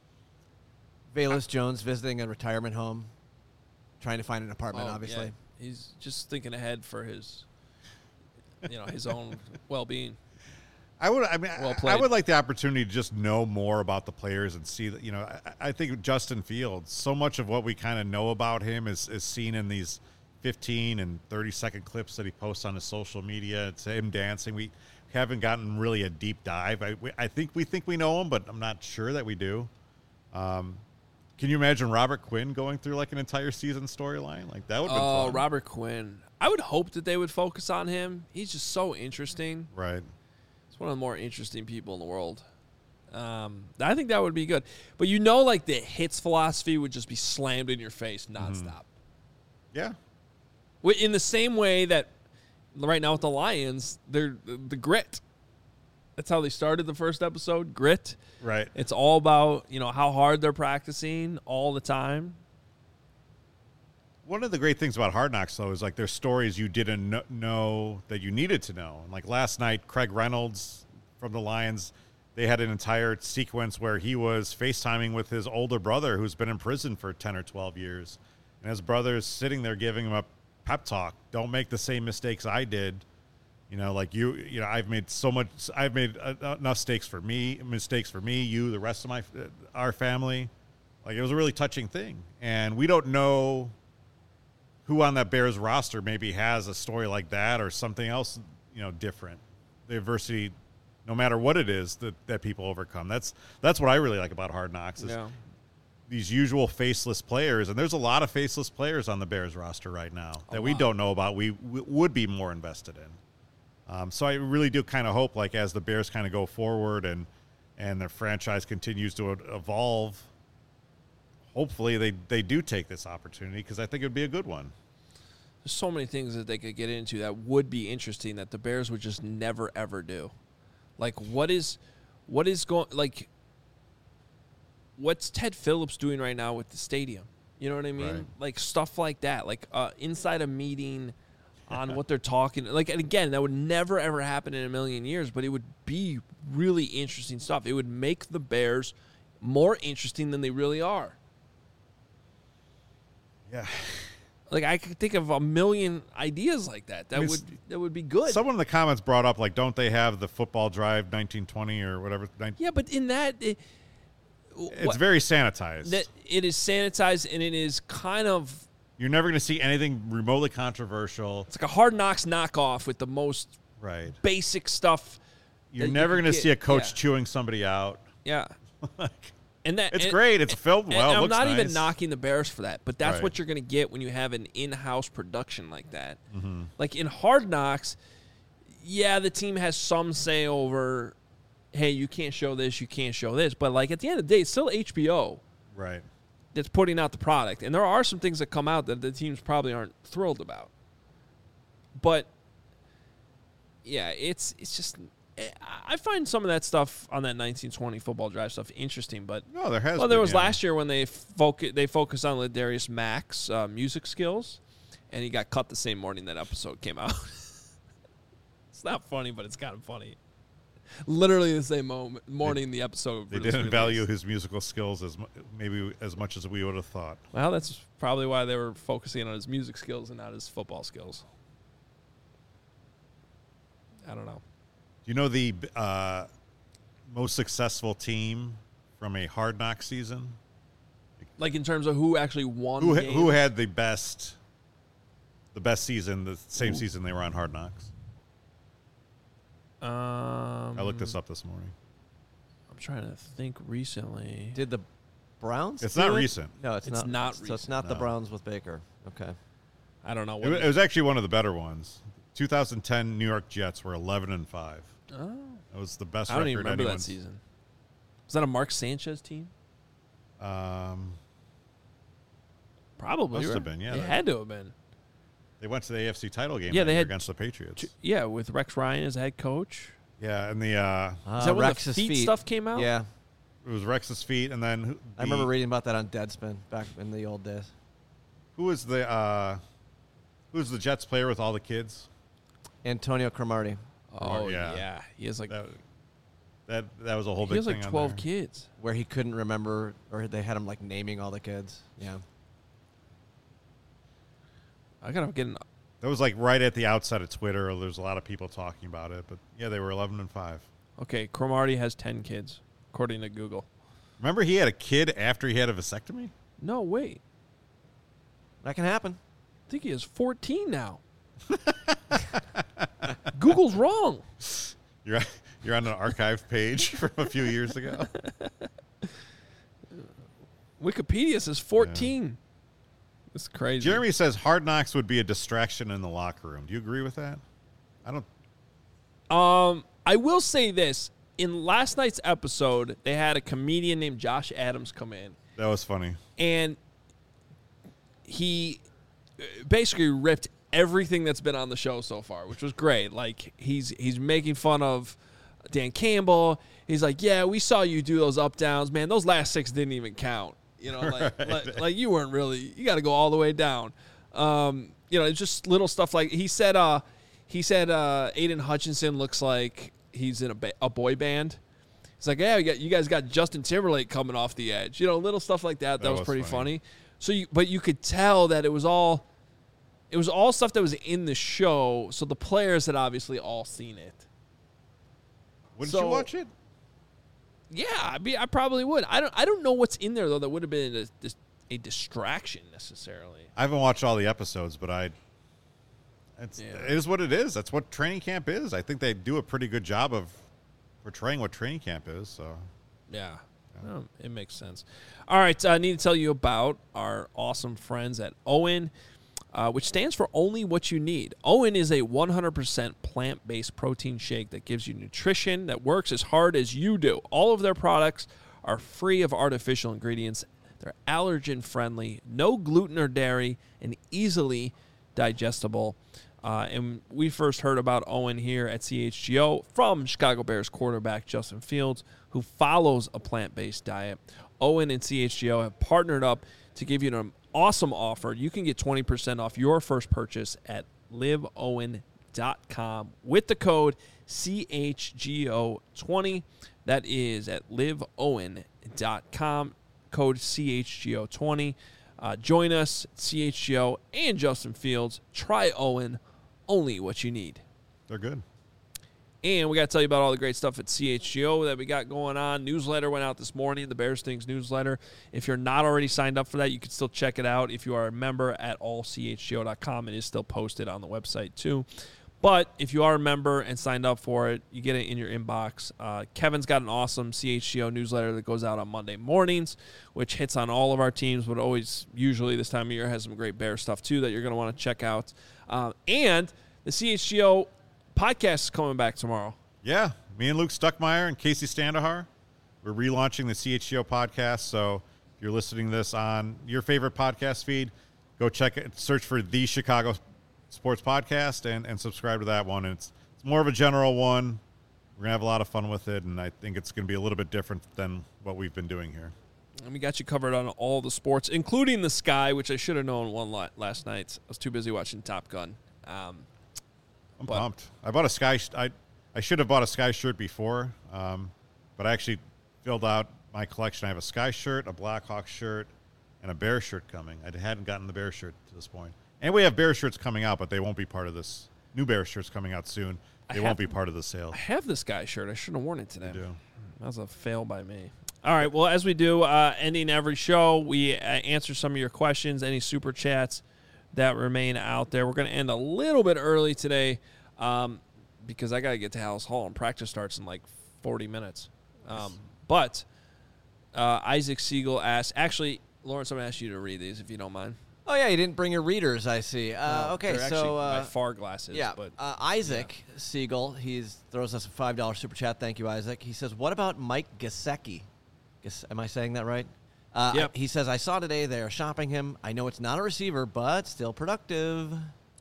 Velus Jones visiting a retirement home, trying to find an apartment, oh, obviously. Yeah. He's just thinking ahead for his, you know, his own well-being. I would. I mean, well I would like the opportunity to just know more about the players and see that. You know, I, I think Justin Fields. So much of what we kind of know about him is is seen in these fifteen and thirty second clips that he posts on his social media. It's him dancing. We haven't gotten really a deep dive. I we, I think we think we know him, but I'm not sure that we do. Um, can you imagine Robert Quinn going through like an entire season storyline? Like that would. Oh, fun. Robert Quinn. I would hope that they would focus on him. He's just so interesting. Right. One of the more interesting people in the world. Um, I think that would be good. But you know, like the hits philosophy would just be slammed in your face nonstop. Mm-hmm. Yeah. In the same way that right now with the Lions, they're the grit. That's how they started the first episode, grit. Right. It's all about, you know, how hard they're practicing all the time. One of the great things about Hard Knocks, though, is like there's stories you didn't kn- know that you needed to know. And like last night, Craig Reynolds from the Lions, they had an entire sequence where he was FaceTiming with his older brother who's been in prison for ten or twelve years. And his brother is sitting there giving him a pep talk. Don't make the same mistakes I did. You know, like you, you know, I've made so much, I've made uh, enough mistakes for me, mistakes for me, you, the rest of my, uh, our family. Like it was a really touching thing. And we don't know who on that Bears roster maybe has a story like that or something else, you know, different. The adversity, no matter what it is that, that people overcome. That's that's what I really like about Hard Knocks is Yeah. these usual faceless players. And there's a lot of faceless players on the Bears roster right now that we don't know about. We, we would be more invested in. Um, so I really do kind of hope, like, as the Bears kind of go forward and, and their franchise continues to evolve, hopefully they, they do take this opportunity because I think it would be a good one. There's so many things that they could get into that would be interesting that the Bears would just never, ever do. Like, what is what is going – like, what's Ted Phillips doing right now with the stadium? You know what I mean? Right. Like, stuff like that. Like, uh, inside a meeting on what they're talking – like, and again, that would never, ever happen in a million years, but it would be really interesting stuff. It would make the Bears more interesting than they really are. Yeah. Like, I could think of a million ideas like that. That I mean, would that would be good. Someone in the comments brought up, like, don't they have the football drive nineteen twenty or whatever? Yeah, but in that, it, It's what, very sanitized. that it is sanitized and it is kind of You're never going to see anything remotely controversial. it's like a Hard Knocks knockoff with the most Right. basic stuff You're that never you going to get- see a coach yeah. chewing somebody out. Yeah. And that It's and- great. It's filmed and well. It I'm looks not even nice. knocking the Bears for that, but that's Right. what you're going to get when you have an in-house production like that. Mm-hmm. Like in Hard Knocks, yeah, the team has some say over, hey, you can't show this, you can't show this, but like at the end of the day, it's still H B O Right. that's putting out the product, and there are some things that come out that the teams probably aren't thrilled about. But yeah, it's it's just. I find some of that stuff on that nineteen twenty football drive stuff interesting, but No, there has. well, there been, was yeah. last year when they focus they focused on Ladarius Mack's uh, music skills, and he got cut the same morning that episode came out. It's not funny, but it's kind of funny. Literally the same moment, morning the episode. They was didn't released. value his musical skills as mu- maybe as much as we would have thought. Well, that's probably why they were focusing on his music skills and not his football skills. I don't know. Do you know the uh, most successful team from a Hard Knock season? Like in terms of who actually won. Who the ha- game? who had the best the best season? The same season they were on Hard Knocks. Um, I looked this up this morning. I'm trying to think. Recently, Did the Browns? It's do not it? recent. No, it's, It's not. not So it's recent, not the no. Browns with Baker. Okay. I don't know. It, What wa- it was actually one of the better ones. twenty ten New York Jets were eleven and five. Oh, That was the best I don't record even remember that anyone's- season. Was that a Mark Sanchez team? Um, Probably. Must right? have been, yeah, It that- had to have been. they went to the A F C title game Yeah, that they year had against the Patriots. Yeah, with Rex Ryan as head coach. Yeah, and the uh, Uh, Is that when Rex's the feet, feet stuff came out? Yeah, it was Rex's feet, and then who- I remember the- reading about that on Deadspin back in the old days. who was the uh, who was the Jets player with all the kids? Antonio Cromartie. Oh yeah. yeah. He has like That that that was a whole he big has thing like on twelve there. kids. Where he couldn't remember, or they had him like naming all the kids. Yeah. I gotta get an. That was like right at the outset of Twitter. There's a lot of people talking about it, but yeah, they were eleven and five. Okay, Cromartie has ten kids, according to Google. Remember, he had a kid after he had a vasectomy. No, wait. That can happen. I think he has fourteen now. Google's wrong. You're you're on an archive page from a few years ago. Wikipedia says fourteen. That's crazy. Jeremy says Hard Knocks would be a distraction in the locker room. Do you agree with that? I don't. Um, I will say this: in last night's episode, they had a comedian named Josh Adams come in, That was funny. and he uh, basically ripped everything that's been on the show so far, which was great. Like he's he's making fun of Dan Campbell. He's like, "Yeah, we saw you do those up downs, man. Those last six didn't even count. You know, like Right. like, like you weren't really. You got to go all the way down. Um, you know, it's just little stuff like he said. Uh, he said uh, Aiden Hutchinson looks like he's in a, ba- a boy band. It's like, yeah, you, got, you guys got Justin Timberlake coming off the edge. You know, little stuff like that. That, That was, was pretty funny. funny. So, you, but you could tell that it was all, it was all stuff that was in the show. So the players had obviously all seen it. Wouldn't So- you watch it? Yeah, I mean, I probably would. I don't. I don't know what's in there though that would have been a, dis- a distraction necessarily. I haven't watched all the episodes, but I. It's, Yeah. It is what it is. That's what training camp is. I think they do a pretty good job of portraying what training camp is. So Yeah, Oh, it makes sense. All right, I need to tell you about our awesome friends at Owen, uh, which stands for Only What You Need. Owen is a one hundred percent plant-based protein shake that gives you nutrition that works as hard as you do. All of their products are free of artificial ingredients. They're allergen-friendly, no gluten or dairy, and easily digestible. Uh, and we first heard about Owen here at C H G O from Chicago Bears quarterback Justin Fields, who follows a plant-based diet. Owen and C H G O have partnered up to give you an awesome offer. You can get twenty percent off your first purchase at live owen dot com with the code C H G O twenty. That is at live owen dot com, code C H G O twenty. Uh, join us, C H G O and Justin Fields. Try Owen, only what you need. they're good. And we got to tell you about all the great stuff at C H G O that we got going on. Newsletter went out this morning, the Bears Things newsletter. If you're not already signed up for that, you can still check it out. If you are a member at all C H G O dot com, it is still posted on the website too. But if you are a member and signed up for it, you get it in your inbox. Uh, Kevin's got an awesome C H G O newsletter that goes out on Monday mornings, which hits on all of our teams, but always, usually this time of year, has some great Bear stuff, too, that you're going to want to check out. Um, and the C H G O podcast is coming back tomorrow. Yeah, me and Luke Stuckmeyer and Casey Standahar, we're relaunching the C H G O podcast. So if you're listening to this on your favorite podcast feed, go check it, search for The Chicago Sports Podcast and, and subscribe to that one. And it's, it's more of a general one. We're going to have a lot of fun with it, and I think it's going to be a little bit different than what we've been doing here. And we got you covered on all the sports, including the Sky, which I should have known won la- last night. I was too busy watching Top Gun. Um, I'm but, pumped. I bought a Sky sh- I, I should have bought a Sky shirt before, um, but I actually filled out my collection. I have a Sky shirt, a Blackhawks shirt, and a Bear shirt coming. I hadn't gotten the Bear shirt to this point. And we have Bear shirts coming out, but they won't be part of this. New Bear shirts coming out soon. They I won't have, be part of the sale. I have this Sky shirt. I shouldn't have worn it today. You do. That was a fail by me. All right, well, as we do, uh, ending every show, we uh, answer some of your questions, any super chats that remain out there. We're going to end a little bit early today um, because I got to get to Hallis Hall, and practice starts in like forty minutes. Um, but uh, Isaac Siegel asked, actually, Lawrence, I'm going to ask you to read these if you don't mind. Oh, yeah, you didn't bring your readers, I see. Uh, Uh, okay, they're so... actually Uh, my far glasses. yeah, but uh, Isaac yeah. Siegel, he throws us a five dollar super chat. Thank you, Isaac. He says, what about Mike Gesicki? Ges- am I saying that right? Uh, yep. I, he says, I saw today they're shopping him. I know it's not a receiver, but still productive.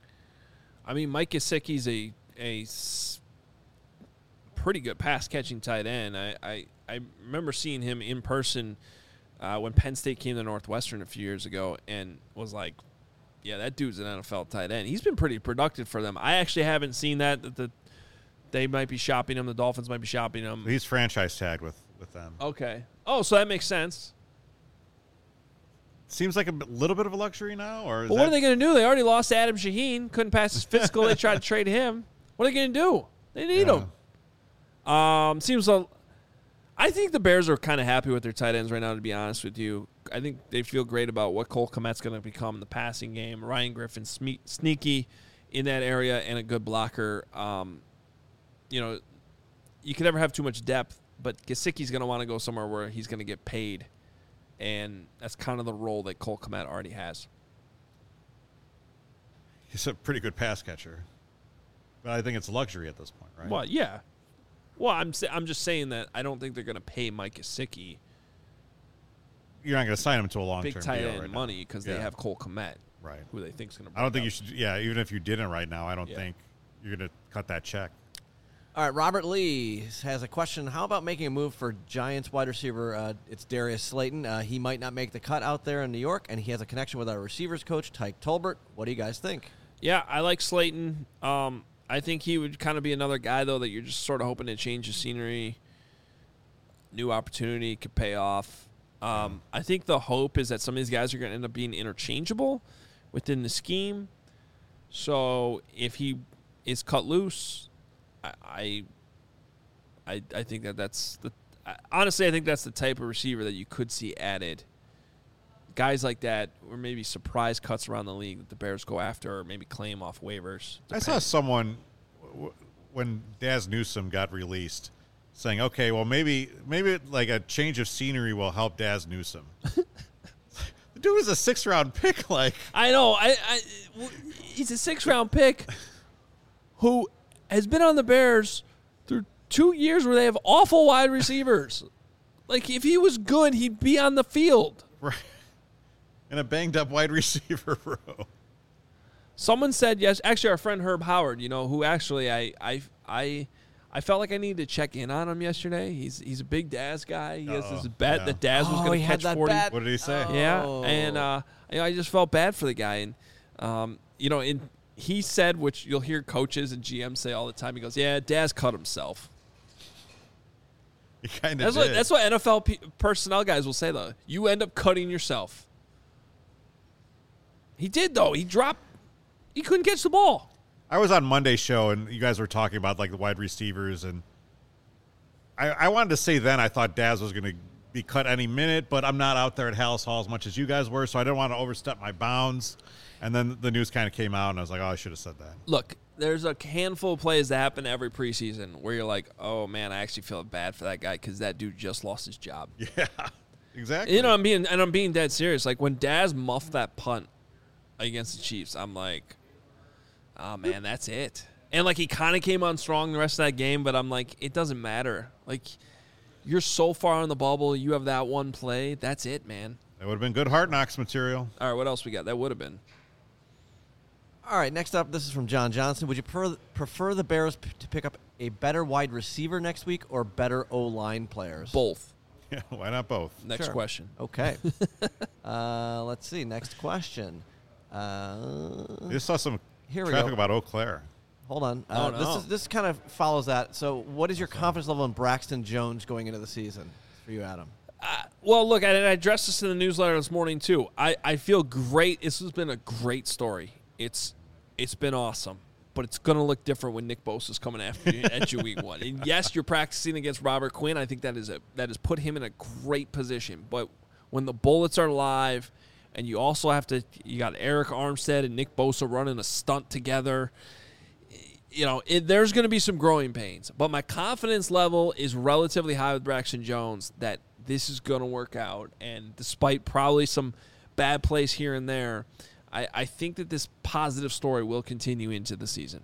I mean, Mike Gesicki's a, a s- pretty good pass-catching tight end. I, I, I remember seeing him in person uh, when Penn State came to Northwestern a few years ago and was like, yeah, that dude's an N F L tight end. He's been pretty productive for them. I actually haven't seen that. that the They might be shopping him. The Dolphins might be shopping him. He's franchise tagged with, with them. Okay. Oh, so that makes sense. Seems like a b- little bit of a luxury now, or is Well, that- what are they going to do? They already lost Adam Shaheen. Couldn't pass his physical. They tried to trade him. What are they going to do? They need Yeah. him. Um, seems like I think the Bears are kind of happy with their tight ends right now, to be honest with you. I think they feel great about what Cole Kmet's going to become in the passing game. Ryan Griffin, sme- sneaky in that area and a good blocker. Um, you know, you can never have too much depth, but Gesicki's going to want to go somewhere where he's going to get paid, and that's kind of the role that Cole Kmet already has. He's a pretty good pass catcher, but I think it's luxury at this point, right? Well, yeah. Well, I'm sa- I'm just saying that I don't think they're going to pay Mike Gesicki You're not going to sign him to a long-term big tight deal end right money because Yeah. they have Cole Kmet, Right. who they think is going to. I don't think you should. Yeah, even if you didn't right now, I don't Yeah. think you're going to cut that check. All right, Robert Lee has a question. How about making a move for Giants wide receiver? Uh, it's Darius Slayton. Uh, he might not make the cut out there in New York, and he has a connection with our receivers coach, Tyke Tolbert. What do you guys think? Yeah, I like Slayton. Um, I think he would kind of be another guy, though, that you're just sort of hoping to change the scenery. New opportunity could pay off. Um, I think the hope is that some of these guys are going to end up being interchangeable within the scheme. So if he is cut loose, I, I, I, I think that that's the. I, honestly, I think that's the type of receiver that you could see added. Guys like that, or maybe surprise cuts around the league that the Bears go after, or maybe claim off waivers. I saw someone w- when Daz Newsome got released saying, "Okay, well maybe maybe like a change of scenery will help Daz Newsome." The dude was a six round pick. Like I know, I, I he's a six round pick who has been on the Bears through two years where they have awful wide receivers. Like if he was good, he'd be on the field. right. In a banged up wide receiver row. Someone said yes. Actually, our friend Herb Howard, you know, who actually I I I I felt like I needed to check in on him yesterday. He's he's a big Daz guy. He has Uh-oh. this bet Yeah. that Daz was Oh, going he to had catch that forty. bet. What did he say? Oh. Yeah, and uh, you know, I just felt bad for the guy, and um, you know, and he said, which you'll hear coaches and G Ms say all the time. He goes, "Yeah, Daz cut himself." He kind of That's did. what that's what N F L pe- personnel guys will say though. You end up cutting yourself. He did though. He dropped. He couldn't catch the ball. I was on Monday's show, and you guys were talking about like the wide receivers, and I, I wanted to say then I thought Daz was going to be cut any minute, but I'm not out there at Hallis Hall as much as you guys were, so I didn't want to overstep my bounds. And then the news kind of came out, and I was like, oh, I should have said that. Look, there's a handful of plays that happen every preseason where you're like, oh man, I actually feel bad for that guy because that dude just lost his job. Yeah, exactly. You know, I'm being and I'm being dead serious. Like when Daz muffed that punt against the Chiefs, I'm like, oh man, that's it. And like he kind of came on strong the rest of that game, but I'm like, it doesn't matter. Like you're so far on the bubble, you have that one play, that's it, man. That would have been good Hard Knocks material. All right, what else we got? That would have been. All right, next up, this is from John Johnson. Would you per- prefer the Bears p- to pick up a better wide receiver next week or better O-line players? Both. Yeah, why not both? Next Sure. question. Okay. uh, let's see. Next question. Uh, I just saw some Here we traffic go. about Eau Claire. hold on. Oh, Uh, no. This is this kind of follows that. So, what is your confidence level in Braxton Jones going into the season for you, Adam? Uh, well, look, I, I addressed this in the newsletter this morning too. I, I feel great. This has been a great story. It's it's been awesome, but it's going to look different when Nick Bosa's coming after you at you week one. And yes, you're practicing against Robert Quinn. I think that is a that has put him in a great position. But when the bullets are live, and you also have to, you got Eric Armstead and Nick Bosa running a stunt together. You know, it, there's going to be some growing pains. But my confidence level is relatively high with Braxton Jones that this is going to work out. And despite probably some bad plays here and there, I, I think that this positive story will continue into the season.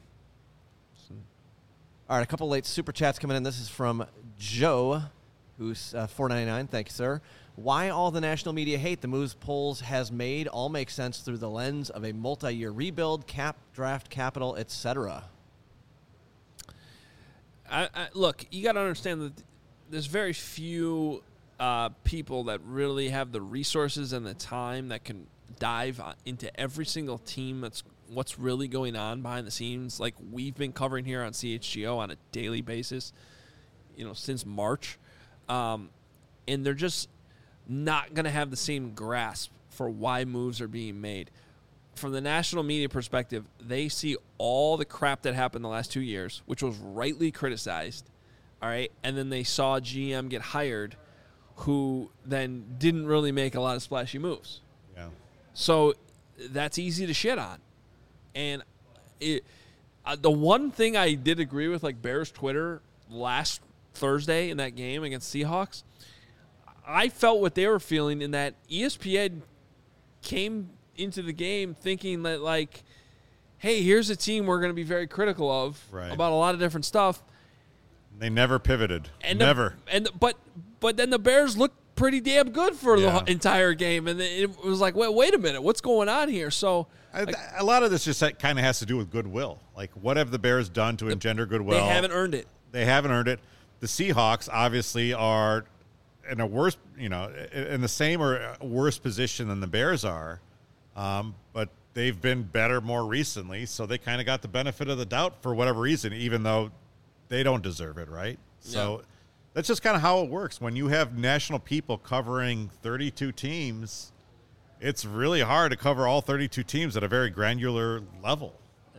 All right, a couple late super chats coming in. This is from Joe, who's uh, four ninety-nine. Thank you, sir. Why all the national media hate the moves Poles has made all make sense through the lens of a multi-year rebuild, cap, draft capital, et cetera. I, I, look, you got to understand that there's very few uh, people that really have the resources and the time that can dive into every single team that's what's really going on behind the scenes. Like we've been covering here on C H G O on a daily basis, you know, since March. Um, and they're just not going to have the same grasp for why moves are being made. From the national media perspective, they see all the crap that happened the last two years, which was rightly criticized, all right? And then they saw a G M get hired who then didn't really make a lot of splashy moves. Yeah. So that's easy to shit on. And it, uh, the one thing I did agree with, like Bears Twitter last Thursday in that game against Seahawks, I felt what they were feeling in that E S P N came into the game thinking that, like, hey, here's a team we're going to be very critical of Right. about a lot of different stuff. They never pivoted. And never. The, and the, but but then the Bears looked pretty damn good for Yeah. the entire game, and it was like, wait, wait a minute, what's going on here? So I, like, a lot of this just kind of has to do with goodwill. Like, what have the Bears done to engender goodwill? they haven't earned it. They haven't earned it. The Seahawks obviously are in a worse, you know, in the same or worse position than the Bears are, um, but they've been better more recently, so they kind of got the benefit of the doubt for whatever reason, even though they don't deserve it, right? So Yeah. that's just kind of how it works. When you have national people covering thirty-two teams, it's really hard to cover all thirty-two teams at a very granular level.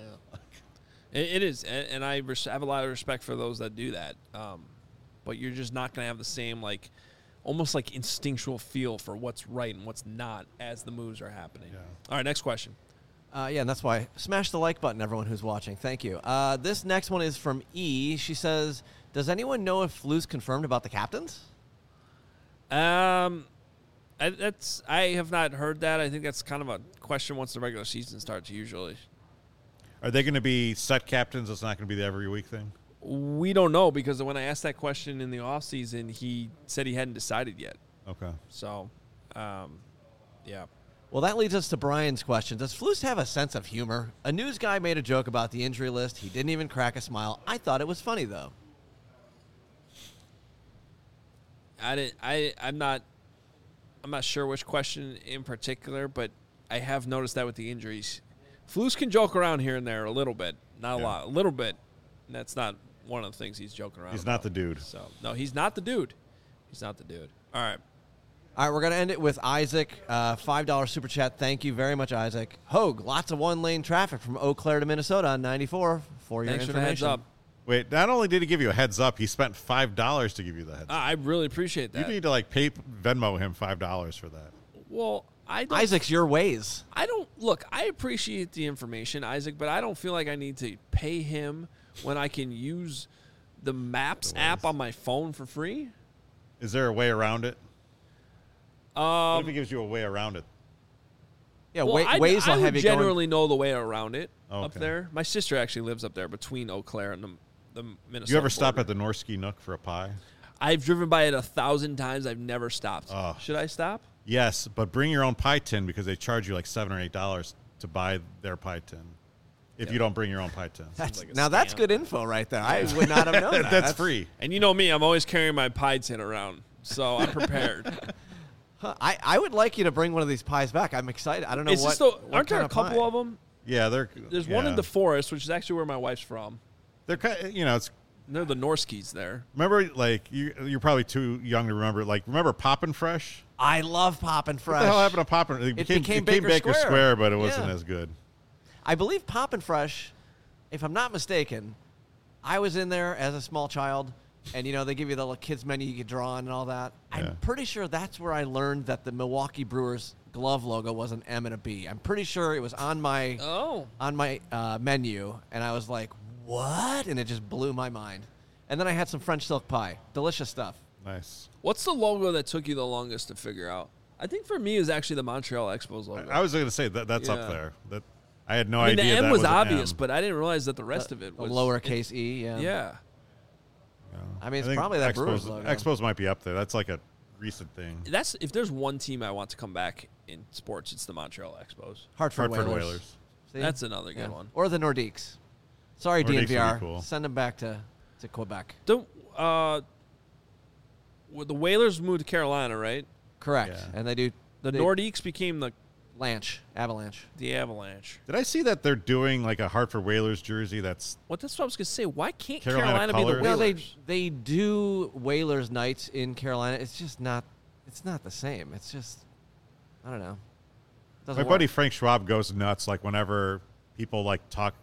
It, it is, and, and I res- have a lot of respect for those that do that. Um, but you're just not going to have the same, like, almost like instinctual feel for what's right and what's not as the moves are happening. Yeah. All right, next question. Uh, yeah, and that's why smash the like button, everyone who's watching. Thank you. Uh, this next one is from E. She says, does anyone know if Lou's confirmed about the captains? Um, I, that's I have not heard that. I think that's kind of a question once the regular season starts. Usually, Are they going to be set captains? It's not going to be the every week thing? we don't know because when I asked that question in the offseason, he said he hadn't decided yet. Okay. So, um, yeah. Well, that leads us to Brian's question. Does Flus have a sense of humor? A news guy made a joke about the injury list. He didn't even crack a smile. I thought it was funny, though. I didn't. I. I'm not. I'm not sure which question in particular, but I have noticed that with the injuries, Flus can joke around here and there a little bit, not a Yeah. lot, a little bit. And that's not one of the things he's joking around. He's about. not the dude. So no, he's not the dude. He's not the dude. All right. All right, we're going to end it with Isaac. Uh, five dollars super chat. Thank you very much, Isaac. Hogue, lots of one-lane traffic from Eau Claire to Minnesota on ninety-four for your Thanks for the information. heads up. Wait, not only did he give you a heads up, he spent five dollars to give you the heads up. I really appreciate You that. need to, like, pay Venmo him five dollars for that. Well, I don't, Isaac's your ways. I don't look. I appreciate the information, Isaac, but I don't feel like I need to pay him when I can use the Maps The app Waze. on my phone for free. Is there a way around it? What Um, if he gives you a way around it? Yeah, well, Wa- I, Waze I will would have you going. generally know the way around it Oh, up okay. there. My sister actually lives up there between Eau Claire and the, the Minnesota. You ever stop border. at the Norski Nook for a pie? I've driven by it a thousand times. I've never stopped. Oh. Should I stop? Yes, but bring your own pie tin because they charge you like seven or eight dollars to buy their pie tin. If you don't bring your own pie tin, That's, like a now that's scam. good info right there. I would not have known that. that's free. And you know me, I'm always carrying my pie tin around, so I'm prepared. Huh, I, I would like you to bring one of these pies back. I'm excited. I don't know Is what. this the, what aren't there kind a couple pie. of them? Yeah, they're There's one in yeah. the forest, which is actually where my wife's from. They're kind you know it's And they're the Norskis there. remember like you you're probably too young to remember like remember Poppin' Fresh. I love Poppin' Fresh. What the hell happened to Poppin'? It became, became it became Baker Baker, Square. Square. but it wasn't Yeah. as good. I believe Poppin' Fresh, if I'm not mistaken, I was in there as a small child, and you know they give you the little kids menu you could draw on and all that. Yeah. I'm pretty sure that's where I learned that the Milwaukee Brewers glove logo was an M and a B. I'm pretty sure it was on my Oh. on my uh, menu, and I was like, "What?" And it just blew my mind. And then I had some French silk pie, delicious stuff. Nice. What's the logo that took you the longest to figure out? I think for me it was actually the Montreal Expos logo. I was going to say that that's Yeah. up there. That I had no I mean, the idea. M that was, an obvious, M. but I didn't realize that the rest of it A was lowercase e, yeah. Yeah. Yeah. I mean, it's think probably that Expos, Brewers logo. Expos might be up there. That's like a recent thing. That's if there's one team I want to come back in sports, it's the Montreal Expos. Hartford, Hartford Whalers. Whalers. See? That's another good Yeah. one. Or the Nordiques. Sorry, Nordiques would be D N V R. cool. Send them back to, to Quebec. The uh, well, the Whalers moved to Carolina, right? Correct. Yeah. And they do The they, Nordiques became the Lanch, Avalanche. the Avalanche. Did I see that they're doing like a Hartford Whalers jersey that's What? That's what I was gonna say. Why can't Carolina Carolina, be the colors? No, Whalers? they they do Whalers nights in Carolina. It's just not it's not the same. It's just I don't know. Doesn't my work. buddy Frank Schwab goes nuts like whenever people like talk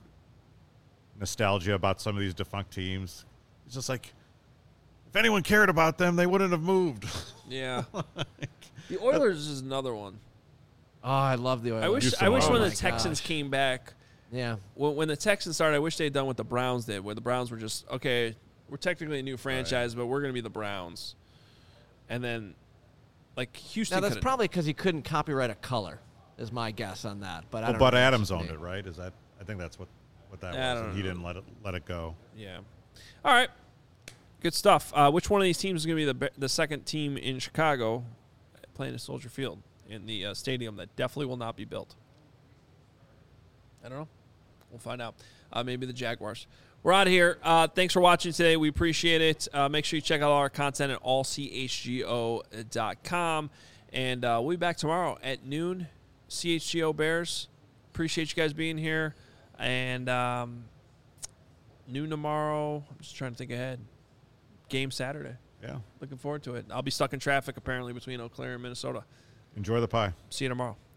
nostalgia about some of these defunct teams. He's just like, if anyone cared about them, they wouldn't have moved. Yeah. The Oilers is another one. Oh, I love the Oilers. I wish. Houston I wish Oilers. when Oh the my Texans gosh. came back. Yeah. When, when the Texans started, I wish they had done what the Browns did, where the Browns were just okay. We're technically a new franchise, but we're gonna be the Browns. And then, like Houston. Now that's could've- probably because he couldn't copyright a color. Is my guess on that. But I Well, don't Bud know. Adams That's owned me. it, right? Is that? I think that's what what that I was. don't And he know. didn't let it let it go. Yeah. All right. Good stuff. Uh, which one of these teams is going to be the be- the second team in Chicago playing at Soldier Field in the uh, stadium that definitely will not be built? I don't know. We'll find out. Uh, maybe the Jaguars. We're out of here. Uh, thanks for watching today. We appreciate it. Uh, make sure you check out all our content at all c h g o dot com. And uh, we'll be back tomorrow at noon. C H G O Bears. Appreciate you guys being here. And um, noon tomorrow. I'm just trying to think ahead. Game Saturday. Yeah. Looking forward to it. I'll be stuck in traffic apparently between Eau Claire and Minnesota. Enjoy the pie. See you tomorrow.